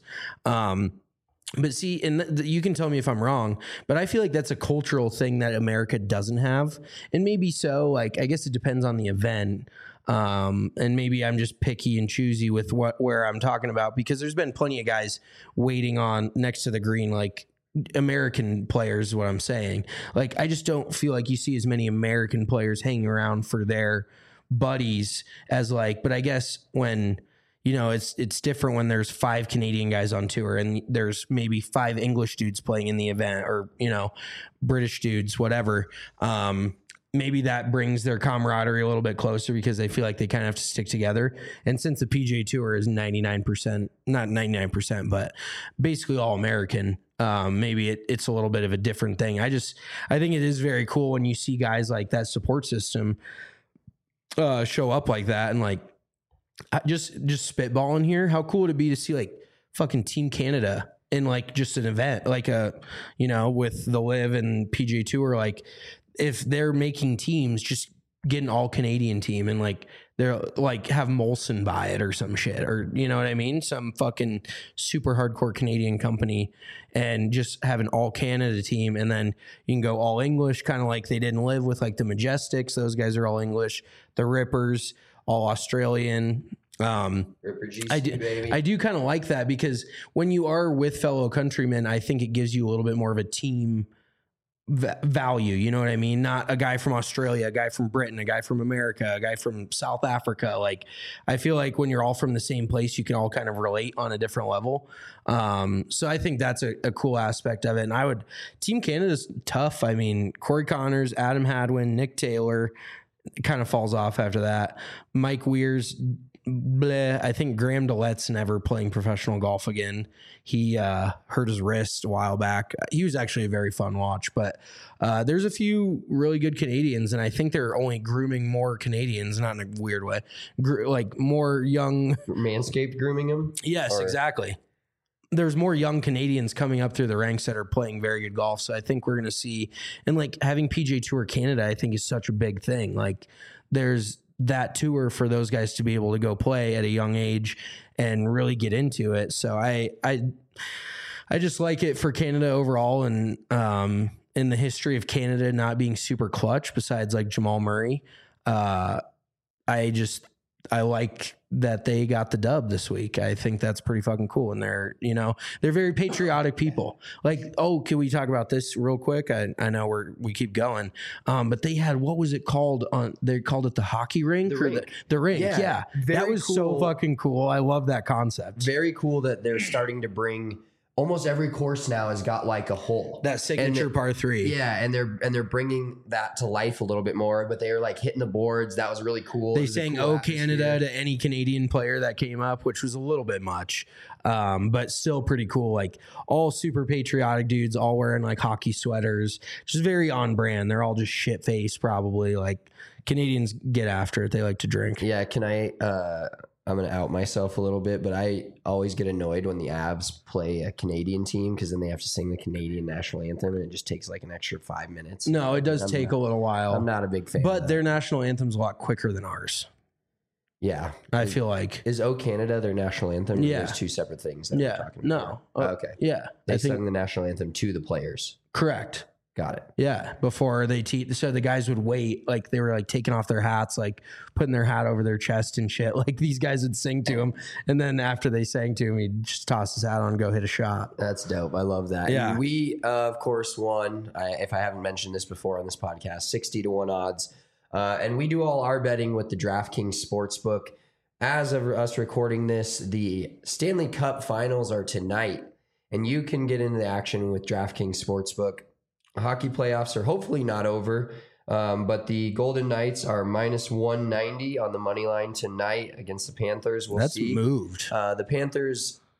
But see, and you can tell me if I'm wrong, but I feel like that's a cultural thing that America doesn't have. And maybe so, like, I guess it depends on the event. And maybe I'm just picky and choosy with where I'm talking about, because there's been plenty of guys waiting on next to the green, like American players is what I'm saying. Like, I just don't feel like you see as many American players hanging around for their buddies as like, but I guess when, you know, it's different when there's 5 Canadian guys on tour and there's maybe 5 English dudes playing in the event, or, you know, British dudes, whatever. Maybe that brings their camaraderie a little bit closer because they feel like they kind of have to stick together. And since the PGA Tour is 99%, not 99%, but basically all American, maybe it's a little bit of a different thing. I think it is very cool when you see guys like that support system show up like that. And like, just spitballing here, how cool would it be to see like fucking Team Canada in like just an event, like you know, with the Live and PGA Tour, like, if they're making teams, just get an all Canadian team and like they're like have Molson buy it or some shit, or you know what I mean? Some fucking super hardcore Canadian company, and just have an all Canada team. And then you can go all English, kind of like they didn't Live with like the Majestics. Those guys are all English. The Rippers, all Australian. Ripper GC, baby. I do kind of like that, because when you are with fellow countrymen, I think it gives you a little bit more of a team value, you know what I mean? Not a guy from Australia, a guy from Britain, a guy from America, a guy from South Africa. Like, I feel like when you're all from the same place, you can all kind of relate on a different level. So I think that's a cool aspect of it. And Team Canada's tough. I mean, Corey Connors, Adam Hadwin, Nick Taylor, it kind of falls off after that. Mike Weirs, bleh. I think Graham DeLette's never playing professional golf again. He hurt his wrist a while back. He was actually a very fun watch, but there's a few really good Canadians, and I think they're only grooming more Canadians, not in a weird way, like more young. Manscaped grooming them? Yes, exactly. There's more young Canadians coming up through the ranks that are playing very good golf. So I think we're going to see, and like having PGA Tour Canada, I think is such a big thing. Like, there's that tour for those guys to be able to go play at a young age and really get into it. So I just like it for Canada overall, and in the history of Canada not being super clutch besides like Jamal Murray. I like that they got the dub this week. I think that's pretty fucking cool. And they're very patriotic people. Like, oh, can we talk about this real quick? I know we keep going. But they had, what was it called they called it the hockey rink? The rink. Yeah. That was cool. So fucking cool. I love that concept. Very cool that they're starting to bring, almost every course now has got like a hole. That signature par 3. Yeah, and they're bringing that to life a little bit more, but they were like hitting the boards. That was really cool. They sang "Oh Canada" to any Canadian player that came up, which was a little bit much, but still pretty cool. Like, all super patriotic dudes, all wearing like hockey sweaters, just very on brand. They're all just shit faced, probably. Like, Canadians get after it. They like to drink. Yeah, I'm going to out myself a little bit, but I always get annoyed when the Avs play a Canadian team, because then they have to sing the Canadian national anthem, and it just takes like an extra 5 minutes. No, it does take a little while. I'm not a big fan. But their national antham's a lot quicker than ours. Yeah. I feel like. Is "O Canada" their national anthem? Yeah. There's two separate things that we're talking about. No. Okay. Yeah. They sung the national anthem to the players. Correct. Got it. Yeah, before they so the guys would wait, like they were like taking off their hats, like putting their hat over their chest and shit. Like, these guys would sing to him, and then after they sang to him, he'd just toss his hat on and go hit a shot. That's dope. I love that. Yeah. And we, of course, won, if I haven't mentioned this before on this podcast, 60-1 odds. And we do all our betting with the DraftKings Sportsbook. As of us recording this, the Stanley Cup Finals are tonight, and you can get into the action with DraftKings Sportsbook. Hockey playoffs are hopefully not over, but the Golden Knights are minus 190 on the money line tonight against the Panthers. We'll see. That's moved. The Panthers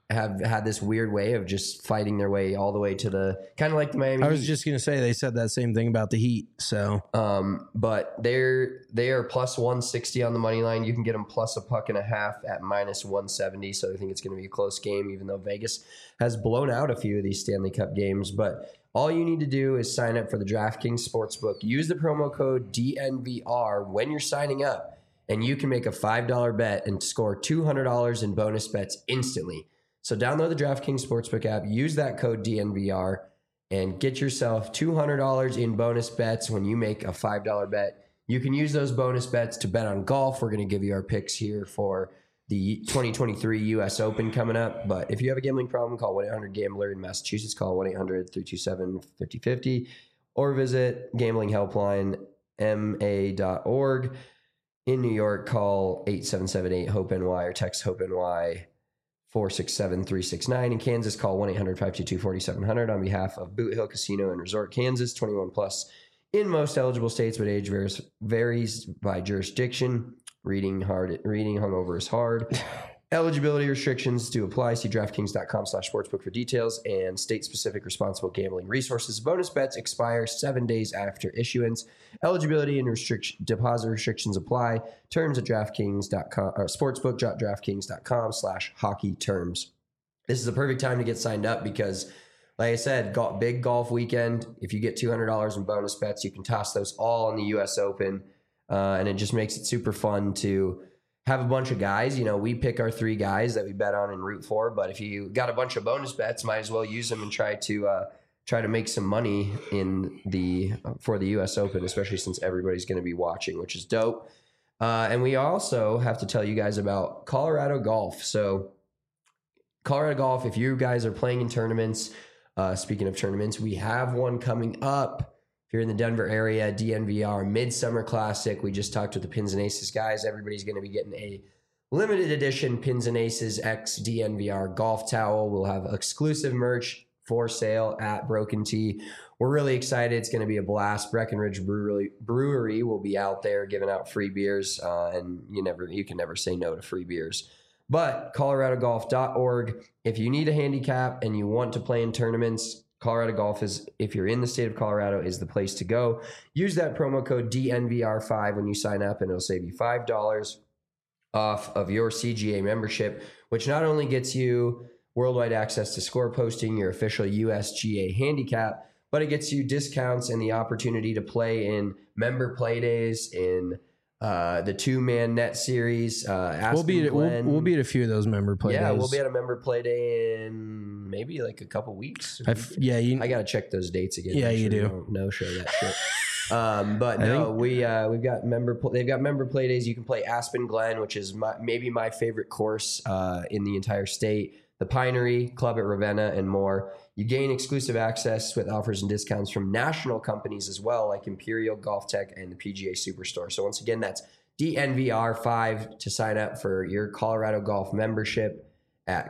have had this weird way of just fighting their way all the way to the kind of like the Miami I was Heat. just going to say they said that same thing about the Heat. So, But they are plus 160 on the money line. You can get them plus a puck and a half at minus 170. So I think it's going to be a close game, even though Vegas has blown out a few of these Stanley Cup games. But all you need to do is sign up for the DraftKings Sportsbook. Use the promo code DNVR when you're signing up, and you can make a $5 bet and score $200 in bonus bets instantly. So download the DraftKings Sportsbook app, use that code DNVR, and get yourself $200 in bonus bets when you make a $5 bet. You can use those bonus bets to bet on golf. We're going to give you our picks here for the 2023 U.S. Open coming up. But if you have a gambling problem, call 1-800-GAMBLER in Massachusetts. Call 1-800-327-5050 or visit gamblinghelplinema.org. In New York, call 877-8-HOPE-NY or text HOPE-NY 467-369. In Kansas, call 1-800-522-4700 on behalf of Boot Hill Casino and Resort, Kansas. 21 plus in most eligible states, but age varies by jurisdiction. Reading hungover is hard. Eligibility restrictions do apply. See DraftKings.com/sportsbook for details and state-specific responsible gambling resources. Bonus bets expire 7 days after issuance. Eligibility and deposit restrictions apply. Terms at DraftKings.com or sportsbook.draftkings.com/hockey terms. This is the perfect time to get signed up because, like I said, big golf weekend. If you get $200 in bonus bets, you can toss those all in the U.S. Open, and it just makes it super fun to have a bunch of guys. You know, we pick our 3 guys that we bet on and root for, but if you got a bunch of bonus bets, might as well use them and try to make some money for the U.S. Open, especially since everybody's going to be watching, which is dope. And we also have to tell you guys about Colorado Golf. So Colorado Golf, if you guys are playing in tournaments, speaking of tournaments, we have one coming up. If you're in the Denver area, DNVR Midsummer Classic. We just talked with the Pins and Aces guys. Everybody's going to be getting a limited edition Pins and Aces X DNVR golf towel. We'll have exclusive merch for sale at Broken Tee. We're really excited. It's going to be a blast. Breckenridge Brewery will be out there giving out free beers, and you can never say no to free beers. But coloradogolf.org, if you need a handicap and you want to play in tournaments, Colorado Golf is, if you're in the state of Colorado, is the place to go. Use that promo code DNVR5 when you sign up, and it'll save you $5 off of your CGA membership, which not only gets you worldwide access to score posting, your official USGA handicap, but it gets you discounts and the opportunity to play in member play days, in the 2-man net series. we'll be at a few of those member play days. Yeah, we'll be at a member play day in maybe like a couple weeks. I got to check those dates again. Yeah, you do. No show that shit. But no, we've got they've got member play days. You can play Aspen Glen, which is maybe my favorite course in the entire state. The Pinery, Club at Ravenna, and more. You gain exclusive access with offers and discounts from national companies as well, like Imperial Golf Tech and the PGA Superstore. So once again, that's DNVR5 to sign up for your Colorado Golf membership at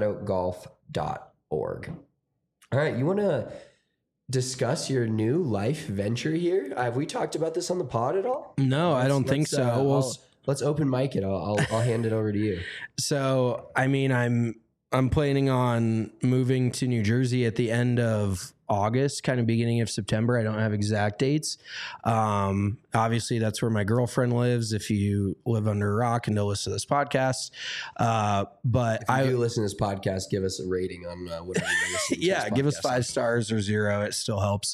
coloradogolf.org. All right, you want to discuss your new life venture here? Have we talked about this on the pod at all? No, I don't think so. Let's open mic it. I'll hand it over to you. So, I mean, I'm planning on moving to New Jersey at the end of August, kind of beginning of September. I don't have exact dates. Obviously, that's where my girlfriend lives. If you live under a rock and don't listen to this podcast, but if you do listen to this podcast, give us a rating on whatever you listen to. Yeah, give us 5 stars or 0. It still helps.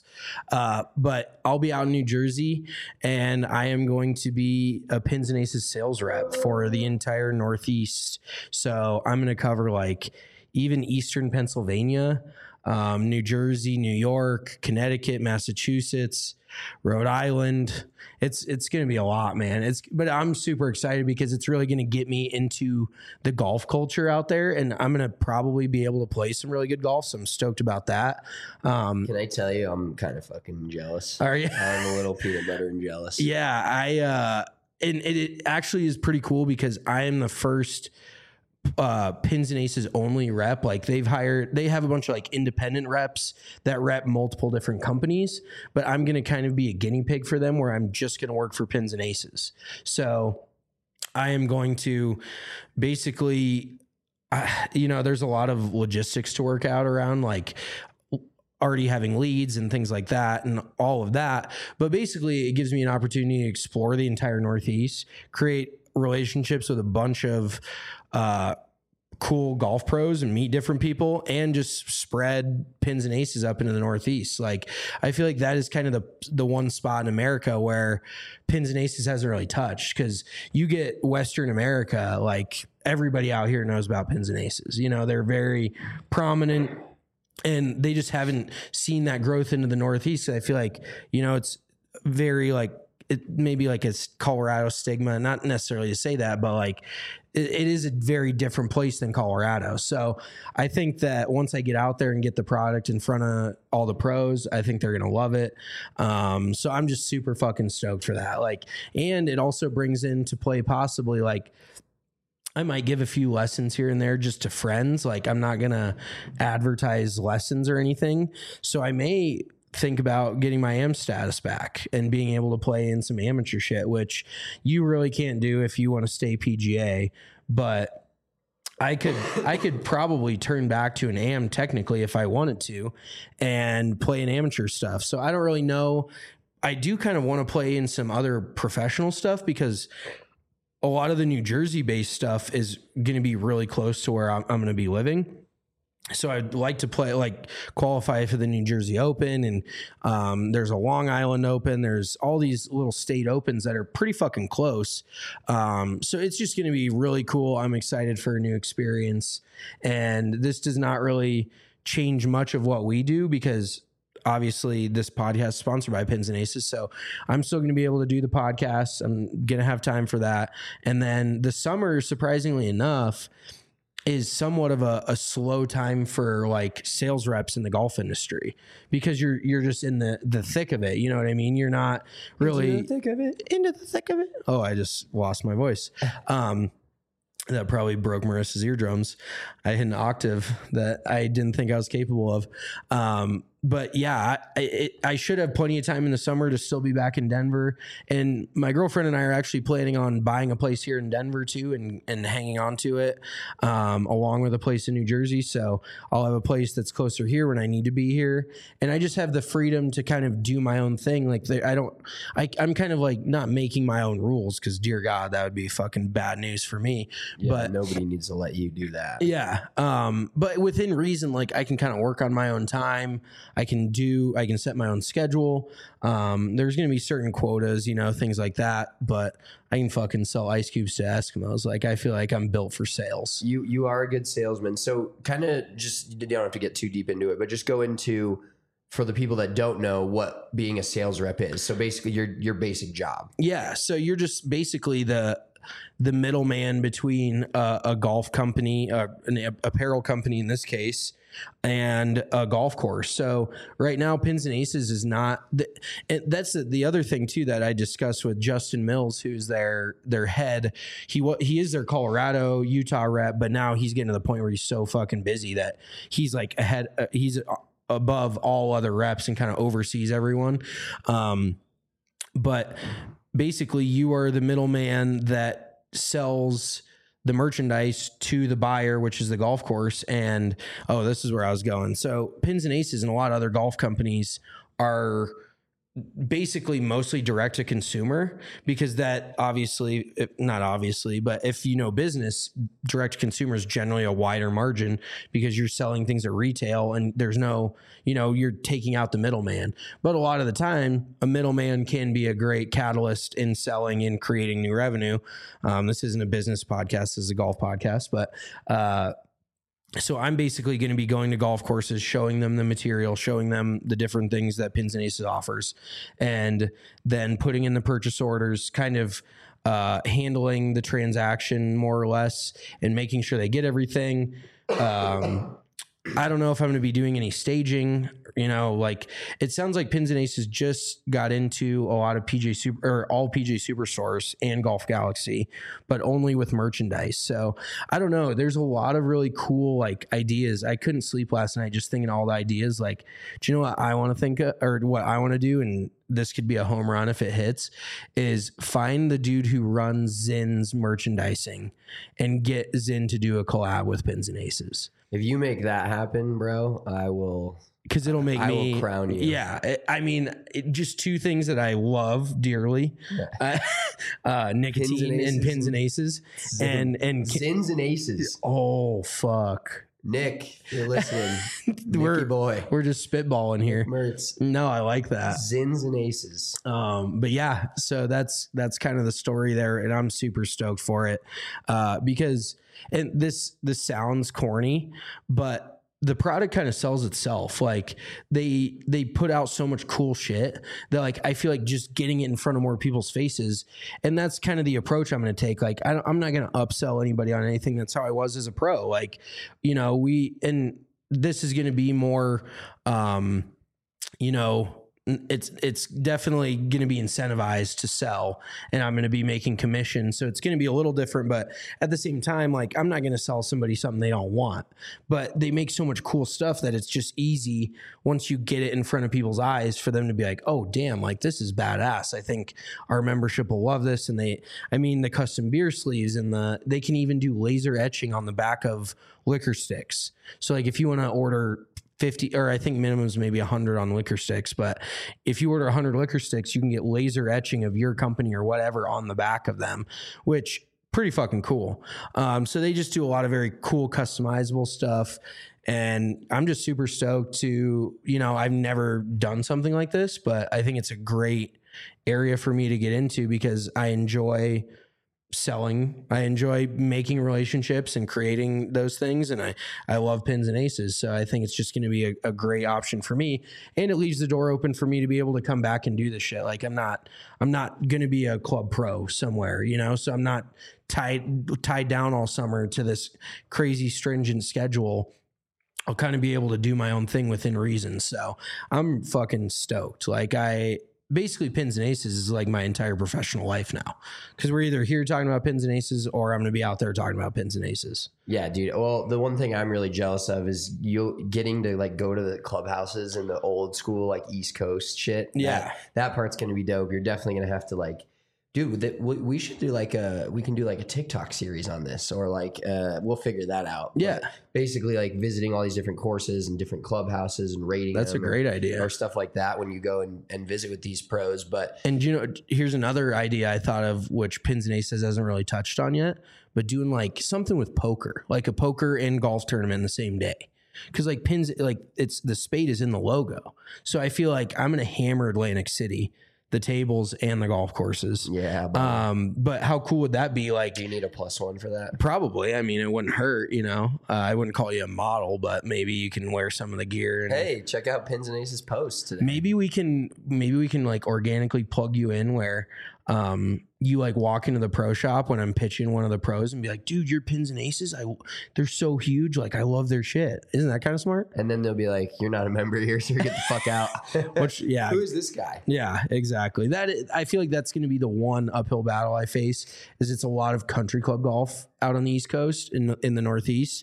But I'll be out in New Jersey, and I am going to be a Pins and Aces sales rep for the entire Northeast. So I'm going to cover like even Eastern Pennsylvania, New Jersey, New York, Connecticut, Massachusetts, Rhode Island. It's going to be a lot, man. But I'm super excited because it's really going to get me into the golf culture out there, and I'm going to probably be able to play some really good golf. So I'm stoked about that. Can I tell you, I'm kind of fucking jealous. Are you? I'm a little peanut butter and jealous. Yeah, and it actually is pretty cool because I am the first Pins and Aces only rep. Like they have a bunch of like independent reps that rep multiple different companies, but I'm going to kind of be a guinea pig for them where I'm just going to work for Pins and Aces. So I am going to basically there's a lot of logistics to work out around, like already having leads and things like that and all of that. But basically it gives me an opportunity to explore the entire Northeast, create relationships with a bunch of cool golf pros and meet different people, and just spread Pins and Aces up into the Northeast. Like, I feel like that is kind of the one spot in America where Pins and Aces hasn't really touched, because you get Western America, like everybody out here knows about Pins and Aces. They're very prominent, and they just haven't seen that growth into the Northeast. I feel like, it's very like, it maybe like a Colorado stigma, not necessarily to say that, but like it is a very different place than Colorado. So I think that once I get out there and get the product in front of all the pros, I think they're going to love it. So I'm just super fucking stoked for that. Like, and it also brings into play possibly like, I might give a few lessons here and there just to friends. Like, I'm not going to advertise lessons or anything. So I may think about getting my AM status back and being able to play in some amateur shit, which you really can't do if you want to stay PGA. But I could probably turn back to an AM technically if I wanted to and play in amateur stuff. So I don't really know. I do kind of want to play in some other professional stuff, because a lot of the New Jersey based stuff is going to be really close to where I'm going to be living. So I'd like to play, like, qualify for the New Jersey Open, and there's a Long Island Open. There's all these little state opens that are pretty fucking close. So it's just going to be really cool. I'm excited for a new experience, and this does not really change much of what we do, because obviously this podcast is sponsored by Pins and Aces. So I'm still going to be able to do the podcast. I'm going to have time for that. And then the summer, surprisingly enough, is somewhat of a slow time for like sales reps in the golf industry, because you're just in the thick of it. You know what I mean? You're not really into the thick of it. Oh, I just lost my voice. That probably broke Marissa's eardrums. I hit an octave that I didn't think I was capable of. But yeah, I should have plenty of time in the summer to still be back in Denver. And my girlfriend and I are actually planning on buying a place here in Denver too, and hanging on to it, along with a place in New Jersey. So I'll have a place that's closer here when I need to be here. And I just have the freedom to kind of do my own thing. Like, I'm kind of like not making my own rules, because dear God, that would be fucking bad news for me. Yeah, but nobody needs to let you do that. Yeah. But within reason, like, I can kind of work on my own time. I can set my own schedule. There's going to be certain quotas, things like that, but I can fucking sell ice cubes to Eskimos. Like, I feel like I'm built for sales. You are a good salesman. So kind of just, you don't have to get too deep into it, but just go into, for the people that don't know what being a sales rep is. So basically your basic job. Yeah. So you're just basically the middleman between a golf company, an apparel company in this case, and a golf course. So right now, Pins and Aces is not. That's the other thing too that I discussed with Justin Mills, who's their head. He is their Colorado, Utah rep, but now he's getting to the point where he's so fucking busy that he's like ahead. He's above all other reps and kind of oversees everyone. But basically, you are the middleman that sells the merchandise to the buyer, which is the golf course. And this is where I was going. So Pins and Aces and a lot of other golf companies are basically mostly direct to consumer, because that obviously, not obviously, but if you know business, direct to consumer is generally a wider margin, because you're selling things at retail and there's no, you're taking out the middleman. But a lot of the time, a middleman can be a great catalyst in selling and creating new revenue. This isn't a business podcast, this is a golf podcast, but so I'm basically going to be going to golf courses, showing them the material, showing them the different things that Pins and Aces offers, and then putting in the purchase orders, kind of handling the transaction more or less, and making sure they get everything. I don't know if I'm going to be doing any staging. You know, like it sounds like Pins and Aces just got into a lot of all PJ Superstores and Golf Galaxy, but only with merchandise. So I don't know. There's a lot of really cool like ideas. I couldn't sleep last night just thinking all the ideas. Like, do you know what I want to think of, or what I want to do? And this could be a home run if it hits, is find the dude who runs Zin's merchandising and get Zin to do a collab with Pins and Aces. If you make that happen, bro, I will. Because it'll make I me will crown you. Yeah, I mean, just two things that I love dearly: nicotine and Pins and Aces, and Zins and Aces. Oh fuck, Nick, you're listening. Nicky boy, we're just spitballing here. Mertz. No, I like that. Zins and Aces. But yeah, so that's kind of the story there, and I'm super stoked for it because, and this sounds corny, but the product kind of sells itself. Like they put out so much cool shit that like I feel like just getting it in front of more people's faces, and that's kind of the approach I'm going to take. Like I'm not going to upsell anybody on anything. That's how I was as a pro. Like, you know, and this is going to be more, you know, it's definitely going to be incentivized to sell, and I'm going to be making commission. So it's going to be a little different, but at the same time, like I'm not going to sell somebody something they don't want, but they make so much cool stuff that it's just easy once you get it in front of people's eyes for them to be like, oh damn, like this is badass. I think our membership will love this. And the custom beer sleeves and they can even do laser etching on the back of liquor sticks. So like if you want to order 50, or I think minimum is maybe 100 on liquor sticks, but if you order 100 liquor sticks, you can get laser etching of your company or whatever on the back of them, which pretty fucking cool. So they just do a lot of very cool customizable stuff, and I'm just super stoked to, you know, I've never done something like this, but I think it's a great area for me to get into because I enjoy selling. I enjoy making relationships and creating those things. And I love Pins and Aces. So I think it's just going to be a great option for me. And it leaves the door open for me to be able to come back and do this shit. Like I'm not going to be a club pro somewhere, you know, so I'm not tied down all summer to this crazy stringent schedule. I'll kind of be able to do my own thing within reason. So I'm fucking stoked. Like basically Pins and Aces is like my entire professional life now, because we're either here talking about Pins and Aces or I'm going to be out there talking about Pins and Aces. Yeah, dude. Well, the one thing I'm really jealous of is you getting to like go to the clubhouses and the old school like East Coast shit. Yeah, that part's going to be dope. You're definitely going to have to like, dude, we should do like we can do like a TikTok series on this, or like we'll figure that out. Yeah. But basically like visiting all these different courses and different clubhouses and rating. That's a great idea. Or stuff like that when you go and visit with these pros. And you know, here's another idea I thought of, which Pins and Aces hasn't really touched on yet, but doing like something with poker, like a poker and golf tournament the same day. Cause like Pins, like it's the spade is in the logo. So I feel like I'm going to hammer Atlantic City, the tables and the golf courses. Yeah. But how cool would that be? Like, do you need a +1 for that? Probably. I mean, it wouldn't hurt, you know. I wouldn't call you a model, but maybe you can wear some of the gear. And hey, check out Pins and Aces post today. Maybe we can like organically plug you in where you like walk into the pro shop when I'm pitching one of the pros and be like, dude, your Pins and Aces, they're so huge. Like I love their shit. Isn't that kind of smart? And then they'll be like, you're not a member here, so get the fuck out. Which, yeah. Who is this guy? Yeah, exactly. I feel like that's going to be the one uphill battle I face, is it's a lot of country club golf out on the East Coast in the Northeast.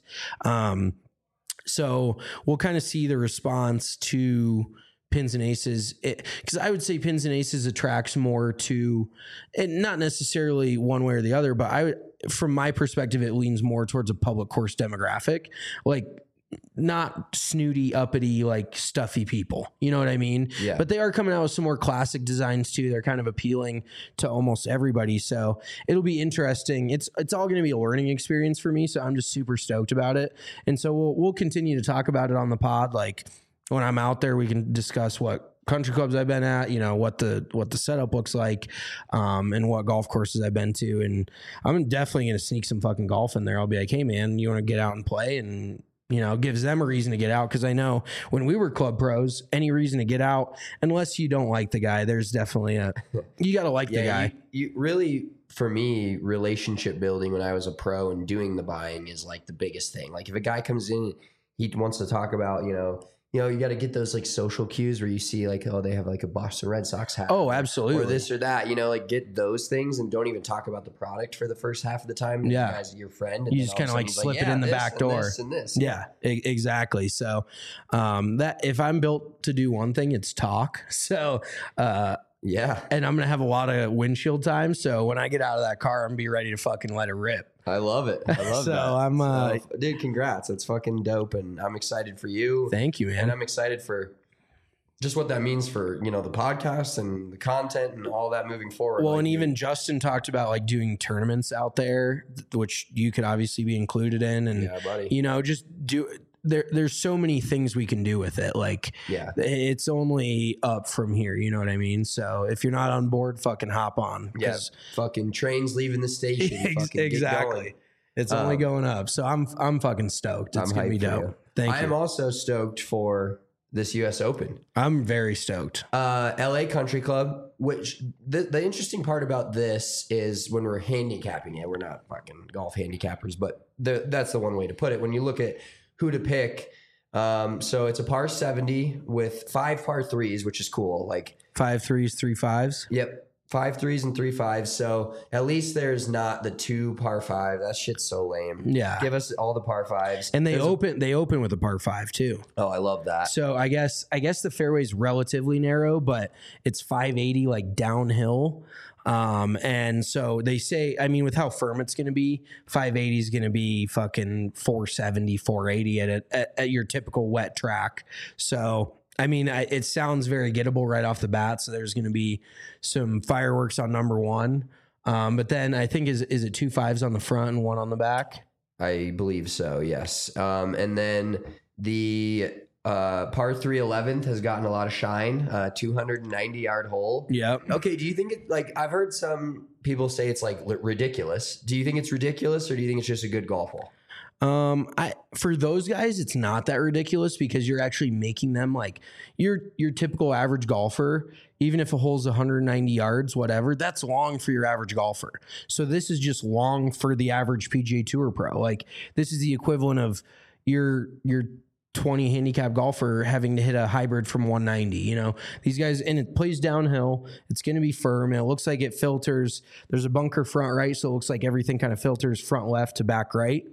So we'll kind of see the response to Pins and Aces, because I would say Pins and Aces attracts more to, and not necessarily one way or the other, but from my perspective, it leans more towards a public course demographic, like not snooty, uppity, like stuffy people. You know what I mean? Yeah. But they are coming out with some more classic designs too. They're kind of appealing to almost everybody. So it'll be interesting. It's all going to be a learning experience for me. So I'm just super stoked about it. And so we'll continue to talk about it on the pod. Like, when I'm out there, we can discuss what country clubs I've been at, you know, what the setup looks like, and what golf courses I've been to. And I'm definitely going to sneak some fucking golf in there. I'll be like, hey man, you want to get out and play? And, you know, gives them a reason to get out. Cause I know when we were club pros, any reason to get out, unless you don't like the guy, there's definitely you got to like the guy. You really, for me, relationship building when I was a pro and doing the buying is like the biggest thing. Like if a guy comes in, he wants to talk about, you got to get those like social cues where you see like, oh, they have like a Boston Red Sox hat. Oh, absolutely. Or this or that, like get those things and don't even talk about the product for the first half of the time. Yeah. You guys are your friend. And you just kind of like slip it in the back door. And this. Yeah, exactly. So that if I'm built to do one thing, it's talk. So yeah. And I'm going to have a lot of windshield time. So when I get out of that car, I'm going to be ready to fucking let it rip. I love it. I love so that. I'm, dude, congrats. That's fucking dope. And I'm excited for you. Thank you, man. And I'm excited for just what that means for, the podcast and the content and all that moving forward. Well, and even Justin talked about like doing tournaments out there, which you could obviously be included in. And, yeah, buddy. Just do there's so many things we can do with it. Like, yeah, it's only up from here. You know what I mean? So if you're not on board, fucking hop on. Yeah, fucking trains leaving the station. Exactly. It's only going up. So I'm fucking stoked. It's going to be dope. Thank you. I am also stoked for this US Open. I'm very stoked. LA Country Club, which the interesting part about this is when we're handicapping it, we're not fucking golf handicappers, but that's the one way to put it. When you look at who to pick. So it's a par 70 with 5 par 3s, which is cool. Like 5 3s, 3 5s. Yep. 5 3s and 3 5s. So at least there's not the 2 par 5. That shit's so lame. Yeah. Give us all the par 5s. And they open with a par 5 too. Oh, I love that. So I guess the fairway's relatively narrow, but it's 580 like downhill. And so they say, I mean, with how firm it's going to be, 580 is going to be fucking 470, 480 at your typical wet track. So, I mean, it sounds very gettable right off the bat. So there's going to be some fireworks on number 1. But then I think is it 2 5s on the front and 1 on the back? I believe so. Yes. And then the, par 3 11th has gotten a lot of shine, 290-yard hole. Yeah. Okay. Do you think I've heard some people say it's like ridiculous. Do you think it's ridiculous or do you think it's just a good golf hole? For those guys, it's not that ridiculous because you're actually making them like your typical average golfer. Even if a hole's 190 yards, whatever, that's long for your average golfer. So this is just long for the average PGA Tour pro. Like this is the equivalent of your 20 handicap golfer having to hit a hybrid from 190, these guys, and it plays downhill. It's going to be firm. And it looks like it filters. There's a bunker front right. So it looks like everything kind of filters front left to back right.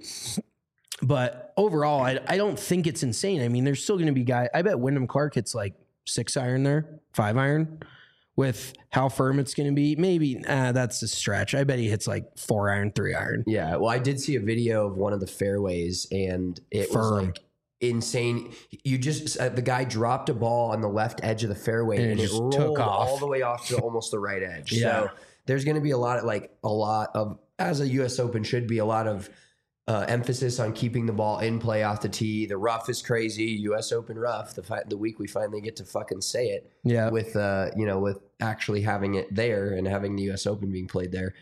But overall, I don't think it's insane. I mean, there's still going to be guys. I bet Wyndham Clark hits like 6 iron there, 5 iron with how firm it's going to be. Maybe that's a stretch. I bet he hits like 4 iron, 3 iron. Yeah. Well, I did see a video of one of the fairways and it was like insane. You just the guy dropped a ball on the left edge of the fairway and it rolled took off all the way off to almost the right edge. Yeah. So there's going to be a lot of, as a US Open should be, a lot of emphasis on keeping the ball in play off the tee. The rough is crazy. US Open rough. The week we finally get to fucking say it. Yeah. With with actually having it there and having the US Open being played there.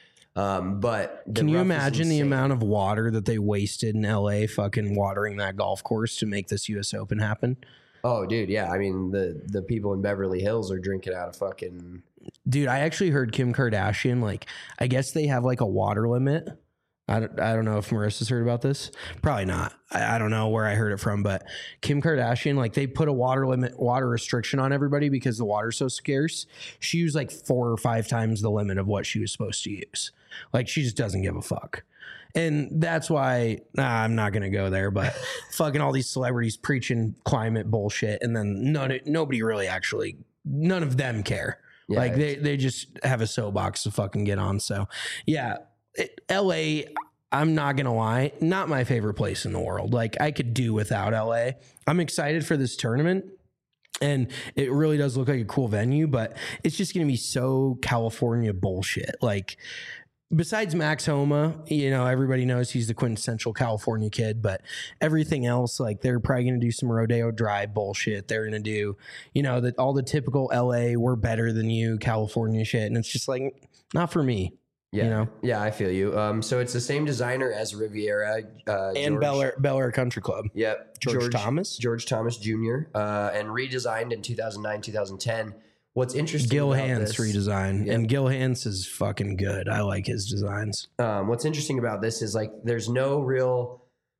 But can you imagine the amount of water that they wasted in LA fucking watering that golf course to make this US Open happen? Oh, dude. Yeah. I mean, the people in Beverly Hills are drinking out of fucking. Dude, I actually heard Kim Kardashian, like, I guess they have like a water limit. I don't know if Marissa's heard about this. Probably not. I don't know where I heard it from, but Kim Kardashian, like they put a water restriction on everybody because the water's so scarce. She used like 4 or 5 times the limit of what she was supposed to use. Like she just doesn't give a fuck. And that's why I'm not going to go there, but fucking all these celebrities preaching climate bullshit. And then nobody really actually, none of them care. Yeah, like they just have a soapbox to fucking get on. So yeah. LA, I'm not gonna lie, not my favorite place in the world. Like I could do without LA. I'm excited for this tournament and it really does look like a cool venue, but it's just gonna be so California bullshit. Like besides Max Homa, everybody knows he's the quintessential California kid, but everything else, like they're probably going to do some Rodeo Drive bullshit. They're going to do, all the typical LA, we're better than you, California shit. And it's just like, not for me. Yeah. Yeah, I feel you. So it's the same designer as Riviera. And Bel Air Country Club. Yep. George Thomas Jr. And redesigned in 2009, 2010. What's interesting Gil about Hanse this, redesign. Yep. And Gil Hanse is fucking good. I like his designs. What's interesting about this is like there's no real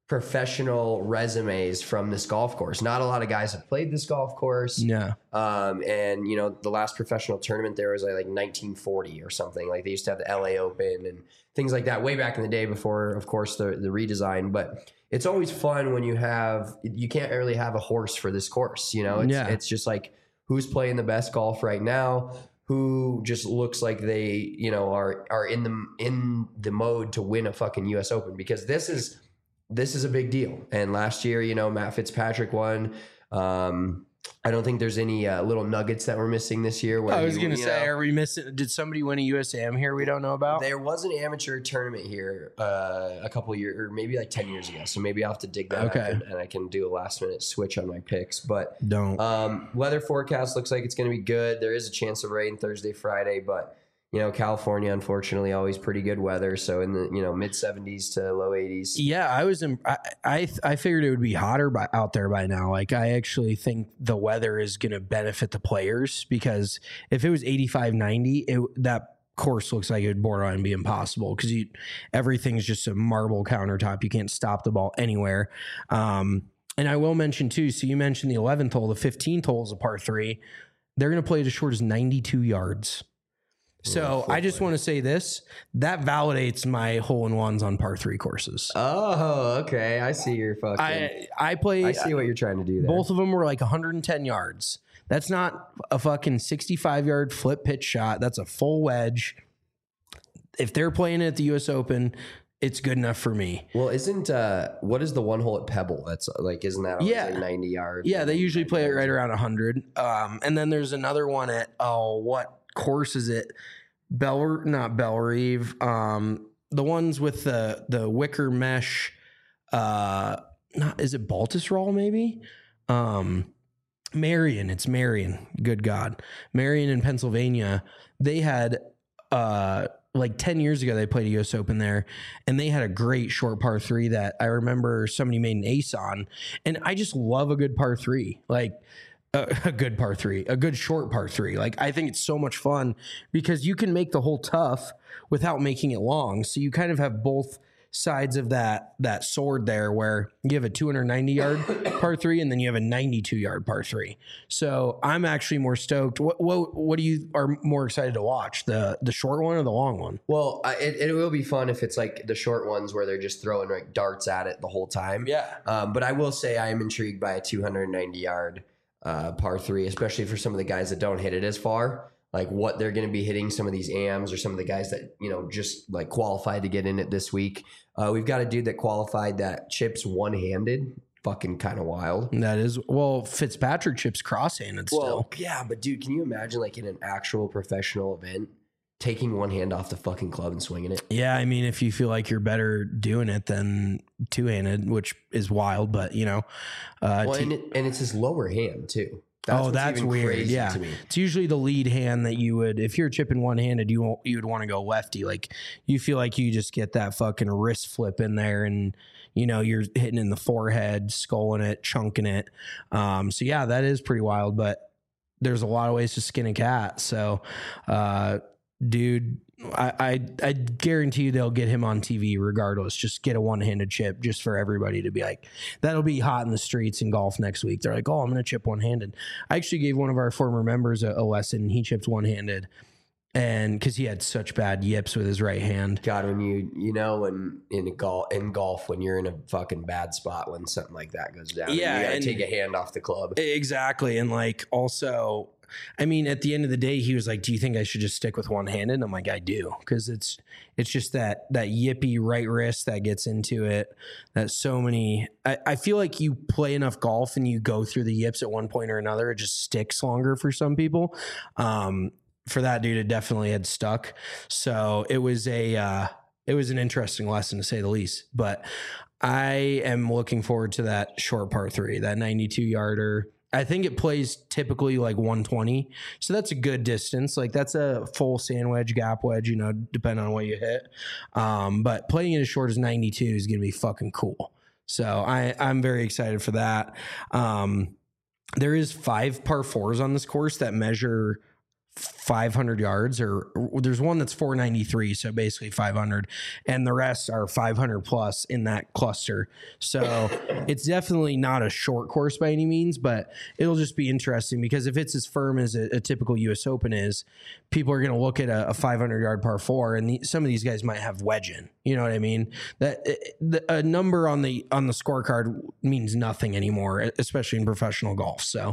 professional resumes from this golf course. Not a lot of guys have played this golf course. Yeah. And you know, the last professional tournament there was like 1940 or something. Like they used to have the LA Open and things like that way back in the day before, of course, the redesign. But it's always fun when you can't really have a horse for this course. You know, it's just like who's playing the best golf right now, who just looks like they, you know, are in the mode to win a fucking US Open, because this is a big deal. And last year, you know, Matt Fitzpatrick won. I don't think there's any little nuggets that we're missing this year. I was going to say, are we missing? Did somebody win a USAM here we don't know about? There was an amateur tournament here a couple of years, or maybe like 10 years ago. So maybe I'll have to dig that up and I can do a last minute switch on my picks. But weather forecast looks like it's going to be good. There is a chance of rain Thursday, Friday, but you know, California, unfortunately, always pretty good weather. So in the, you know, mid 70s to low 80s. Yeah, I figured it would be hotter out there by now. Like, I actually think the weather is going to benefit the players, because if it was 85, 90, that course looks like it would borderline be impossible, because everything's just a marble countertop. You can't stop the ball anywhere. And I will mention too, so you mentioned the 11th hole, the 15th hole is a par 3. They're going to play it as short as 92 yards. So I just want to say this, that validates my hole-in-ones on par 3 courses. Oh, okay. I see your fucking... I see what you're trying to do there. Both of them were like 110 yards. That's not a fucking 65-yard flip pitch shot. That's a full wedge. If they're playing it at the U.S. Open, it's good enough for me. Well, what is the one hole at Pebble? That's like, isn't that like 90 yards? Yeah, they usually play it right around 100. And then there's another one at, what course is it? Not Bellerive. The ones with the wicker mesh. Is it Baltusrol maybe? Marion. It's Marion. Good God. Marion in Pennsylvania. They had like 10 years ago, they played a US Open there, and they had a great short par 3 that I remember somebody made an ace on. And I just love a good par 3. Like, a good par 3, a good short par 3. Like, I think it's so much fun because you can make the hole tough without making it long. So you kind of have both sides of that sword there, where you have a 290-yard par 3 and then you have a 92-yard par 3. So I'm actually more stoked. What do you are more excited to watch, the short one or the long one? Well, it will be fun if it's like the short ones where they're just throwing like darts at it the whole time. Yeah. But I will say I am intrigued by a 290-yard par 3, especially for some of the guys that don't hit it as far, like what they're going to be hitting, some of these AMs or some of the guys that, you know, just like qualified to get in it this week. We've got a dude that qualified that chips one-handed. Fucking kind of wild. That is, well, Fitzpatrick chips cross-handed still. Yeah, but dude, can you imagine like in an actual professional event taking one hand off the fucking club and swinging it? Yeah, I mean, if you feel like you're better doing it than two-handed, which is wild, but you know. And it's his lower hand too. That's weird. Yeah, to me. It's usually the lead hand that you would, if you're chipping one-handed, you would want to go lefty. Like, you feel like you just get that fucking wrist flip in there, and you know you're hitting in the forehead, sculling it, chunking it. So yeah, that is pretty wild. But there's a lot of ways to skin a cat. So, dude, I guarantee you they'll get him on TV regardless. Just get a one-handed chip just for everybody to be like, that'll be hot in the streets in golf next week. They're like, oh, I'm going to chip one-handed. I actually gave one of our former members a lesson. He chipped one-handed, and because he had such bad yips with his right hand. God, when you know, when in golf, when you're in a fucking bad spot, when something like that goes down, yeah, you got to take a hand off the club. Exactly. And like, also, I mean, at the end of the day, he was like, do you think I should just stick with one-handed? And I'm like, I do. Because it's just that yippy right wrist that gets into it. That so many, I feel like you play enough golf and you go through the yips at one point or another. It just sticks longer for some people. For that dude, it definitely had stuck. So it was an interesting lesson to say the least. But I am looking forward to that short par 3, that 92-yarder. I think it plays typically like 120. So that's a good distance. Like, that's a full sand wedge, gap wedge, you know, depending on what you hit. But playing it as short as 92 is going to be fucking cool. So I'm very excited for that. There is 5 par 4s on this course that measure 500 yards, or there's one that's 493, so basically 500, and the rest are 500 plus in that cluster. So it's definitely not a short course by any means, but it'll just be interesting because if it's as firm as a typical US Open is, people are going to look at a 500 yard par 4, and some of these guys might have wedge in. You know what I mean? That a number on the scorecard means nothing anymore, especially in professional golf. So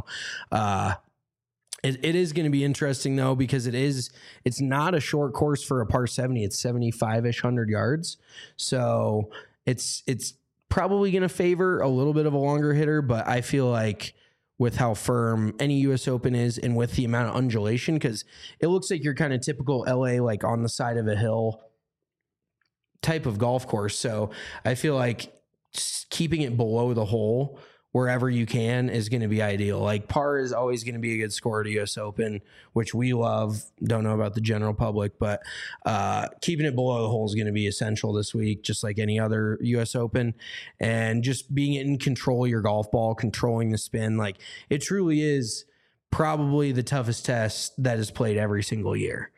It is going to be interesting though, because it's not a short course for a par 70. It's 75-ish 100 yards. So it's probably going to favor a little bit of a longer hitter, but I feel like with how firm any US Open is and with the amount of undulation, because it looks like you're kind of typical LA, like on the side of a hill type of golf course. So I feel like keeping it below the hole wherever you can is going to be ideal. Like par is always going to be a good score at US Open, which we love. Don't know about the general public, but keeping it below the hole is going to be essential this week, just like any other US Open. And just being in control of your golf ball, controlling the spin. Like it truly is probably the toughest test that is played every single year.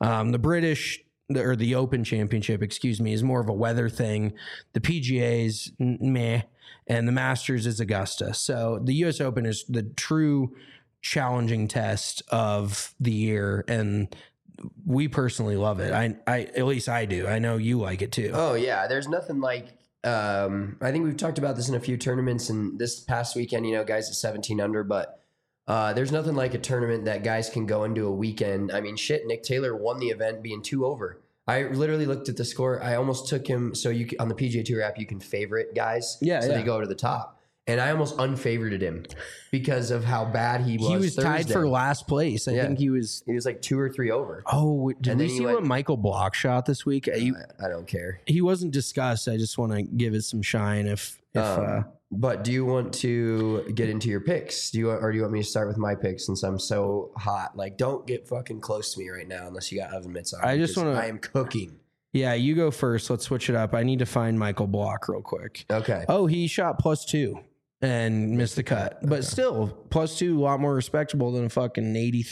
The Open Championship, is more of a weather thing. The PGA's meh. And the Masters is Augusta. So the US Open is the true challenging test of the year. And we personally love it. I at least I do. I know you like it too. Oh yeah. There's nothing like, I think we've talked about this in a few tournaments, and this past weekend, guys at 17 under, but there's nothing like a tournament that guys can go into a weekend. I mean, shit, Nick Taylor won the event being 2 over. I literally looked at the score. I almost took him. So on the PGA Tour app, you can favorite guys. Yeah. So they go to the top. And I almost unfavorited him because of how bad he was. He was tied for last place. I think he was like 2 or 3 over. Oh, did we see what Michael Block shot this week? I don't care. He wasn't discussed. I just want to give it some shine. But do you want to get into your picks? Do you want me to start with my picks since I'm so hot? Like, don't get fucking close to me right now unless you got oven mitts on. I just want to. I am cooking. Yeah, you go first. Let's switch it up. I need to find Michael Block real quick. Okay. Oh, he shot +2 and missed the cut, but still +2, a lot more respectable than a fucking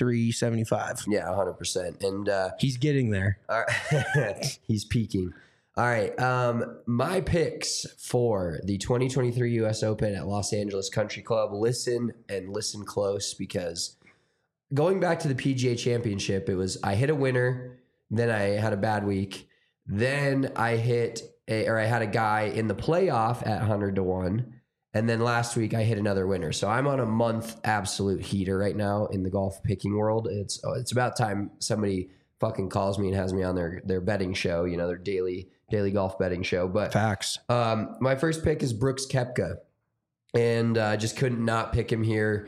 83-75. Yeah, 100%. And he's getting there. All right. He's peaking. All right. My picks for the 2023 US Open at Los Angeles Country Club. Listen close, because going back to the PGA Championship, I hit a winner, then I had a bad week. Then I had a guy in the playoff at 100-1. And then last week I hit another winner. So I'm on a month absolute heater right now in the golf picking world. It's about time somebody fucking calls me and has me on their betting show, their daily golf betting show. But facts. My first pick is Brooks Koepka, and just couldn't not pick him here.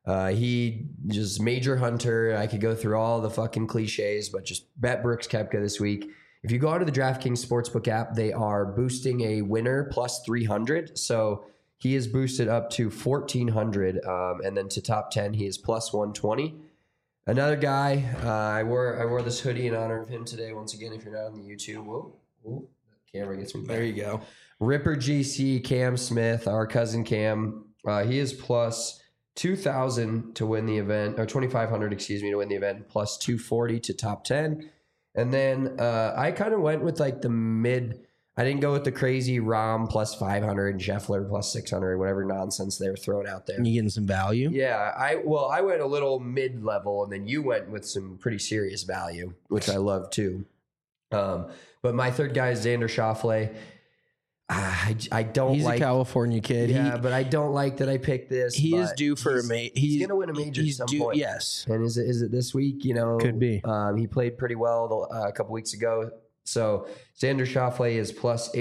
He just major hunter. I could go through all the fucking cliches, but just bet Brooks Koepka this week. If you go onto the DraftKings Sportsbook app, they are boosting a winner +300. So he is boosted up to 1,400, and then to top 10, he is +120. Another guy, I wore this hoodie in honor of him today. Once again, if you're not on the YouTube, whoa, the camera gets me back. There you go. Ripper GC, Cam Smith, our cousin Cam. He is +2,000 to win the event, or 2,500, to win the event, +240 to top 10. And then I kind of went with like the mid. I didn't go with the crazy Rahm +500 and Scheffler +600, whatever nonsense they were throwing out there. You getting some value? Yeah, I went a little mid-level, and then you went with some pretty serious value, which I love too. But my third guy is Xander Schauffele. I don't. He's like, a California kid. Yeah, but I don't like that I picked this. He is due for a major. He's going to win a major at some point. Yes. And is it this week? Could be. He played pretty well a couple weeks ago. So Xander Schauffele is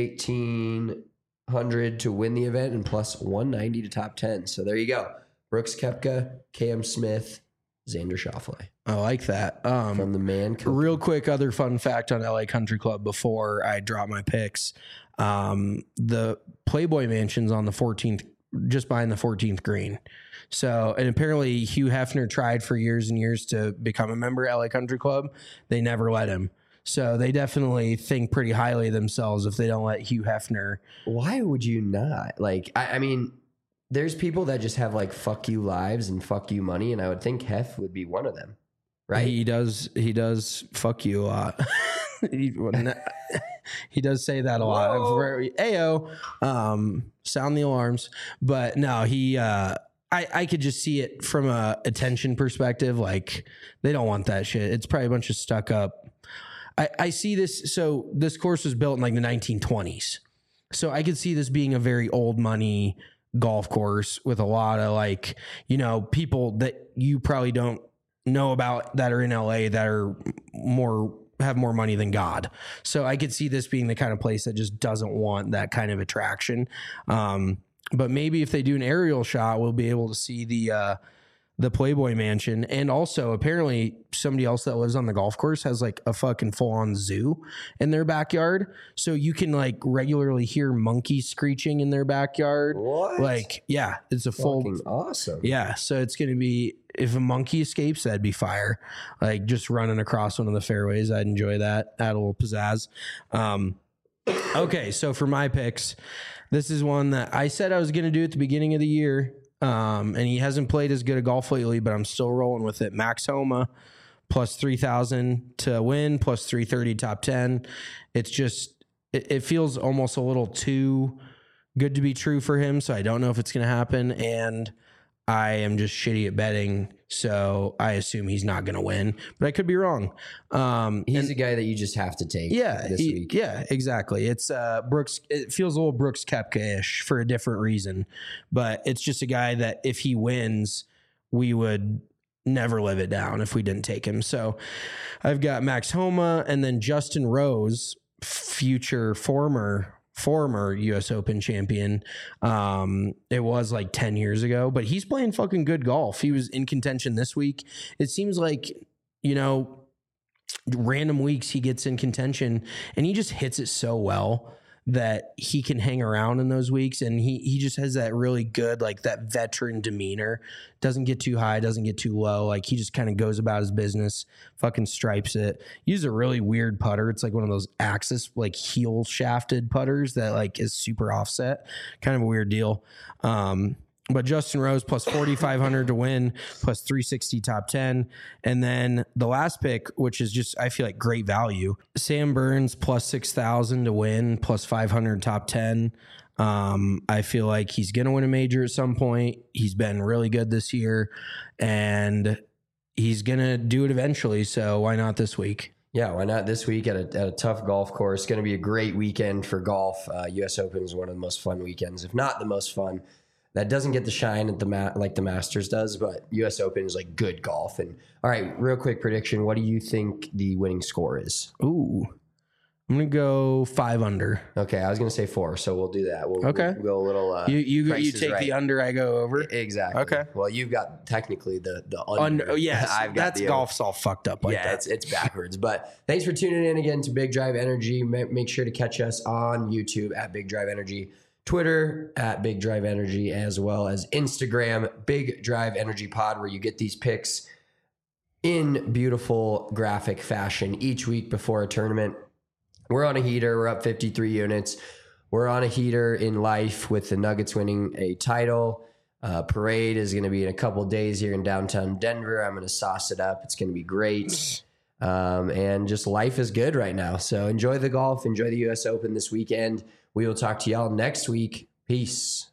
+1,800 to win the event and +190 to top 10. So there you go. Brooks Koepka, Cam Smith, Xander Schauffele. I like that. From the man. Real quick, other fun fact on LA Country Club before I drop my picks. The Playboy Mansion's on the 14th, just behind the 14th green. So, and apparently Hugh Hefner tried for years and years to become a member of LA Country Club. They never let him. So they definitely think pretty highly of themselves if they don't let Hugh Hefner. Why would you not? Like, I mean, there's people that just have like fuck you lives and fuck you money, and I would think Hef would be one of them. right? He does fuck you a lot. He does say that a lot. Ayo, sound the alarms. But no, I could just see it from a attention perspective. Like, they don't want that shit. It's probably a bunch of stuck up. I see this. So this course was built in like the 1920s. So I could see this being a very old money golf course with a lot of like, people that you probably don't know about that are in LA that are have more money than God. So I could see this being the kind of place that just doesn't want that kind of attraction. But maybe if they do an aerial shot, we'll be able to see the Playboy Mansion. And also, apparently, somebody else that lives on the golf course has like a fucking full-on zoo in their backyard. So you can like regularly hear monkeys screeching in their backyard. What? Like, yeah, it's a full awesome. Yeah, so it's going to be, if a monkey escapes, that'd be fire. Like just running across one of the fairways, I'd enjoy that. Add a little pizzazz. Okay, so for my picks, this is one that I said I was going to do at the beginning of the year. And he hasn't played as good a golf lately, but I'm still rolling with it. Max Homa, plus 3,000 to win, plus 330 top 10. It's just, it feels almost a little too good to be true for him. So I don't know if it's going to happen. And I am just shitty at betting, so I assume he's not going to win, but I could be wrong. He's a guy that you just have to take this week. Yeah, exactly. It's Brooks. It feels a little Brooks Koepka-ish for a different reason, but it's just a guy that if he wins, we would never live it down if we didn't take him. So I've got Max Homa and then Justin Rose, former US Open champion. It was like 10 years ago, but he's playing fucking good golf. He was in contention this week. It seems like, random weeks he gets in contention and he just hits it so well that he can hang around in those weeks. And he just has that really good, like that veteran demeanor, doesn't get too high, doesn't get too low. Like he just kind of goes about his business, fucking stripes it. Uses a really weird putter. It's like one of those Axis, like heel shafted putters that like is super offset, kind of a weird deal. But Justin Rose plus 4,500 to win, plus 360 top 10. And then the last pick, which is just, I feel like great value. Sam Burns plus 6,000 to win, plus 500 top 10. I feel like he's going to win a major at some point. He's been really good this year and he's going to do it eventually. So why not this week? Yeah, why not this week at a tough golf course? Going to be a great weekend for golf. US Open is one of the most fun weekends, if not the most fun. That doesn't get the shine at like the Masters does, but US Open is like good golf. And all right, real quick prediction. What do you think the winning score is? Ooh, I'm going to go 5 under. Okay, I was going to say 4, so we'll do that. We'll go a little you take right. The under, I go over? Exactly. Okay. Well, you've got technically the under. Yes, I've got that's golf's all fucked up like that. It's backwards. But thanks for tuning in again to Big Drive Energy. Make sure to catch us on YouTube at Big Drive Energy, Twitter at Big Drive Energy, as well as Instagram, Big Drive Energy Pod, where you get these picks in beautiful graphic fashion each week before a tournament. We're on a heater. We're up 53 units. We're on a heater in life with the Nuggets winning a title. Parade is going to be in a couple days here in downtown Denver. I'm going to sauce it up. It's going to be great. And just life is good right now. So enjoy the golf. Enjoy the US Open this weekend. We will talk to y'all next week. Peace.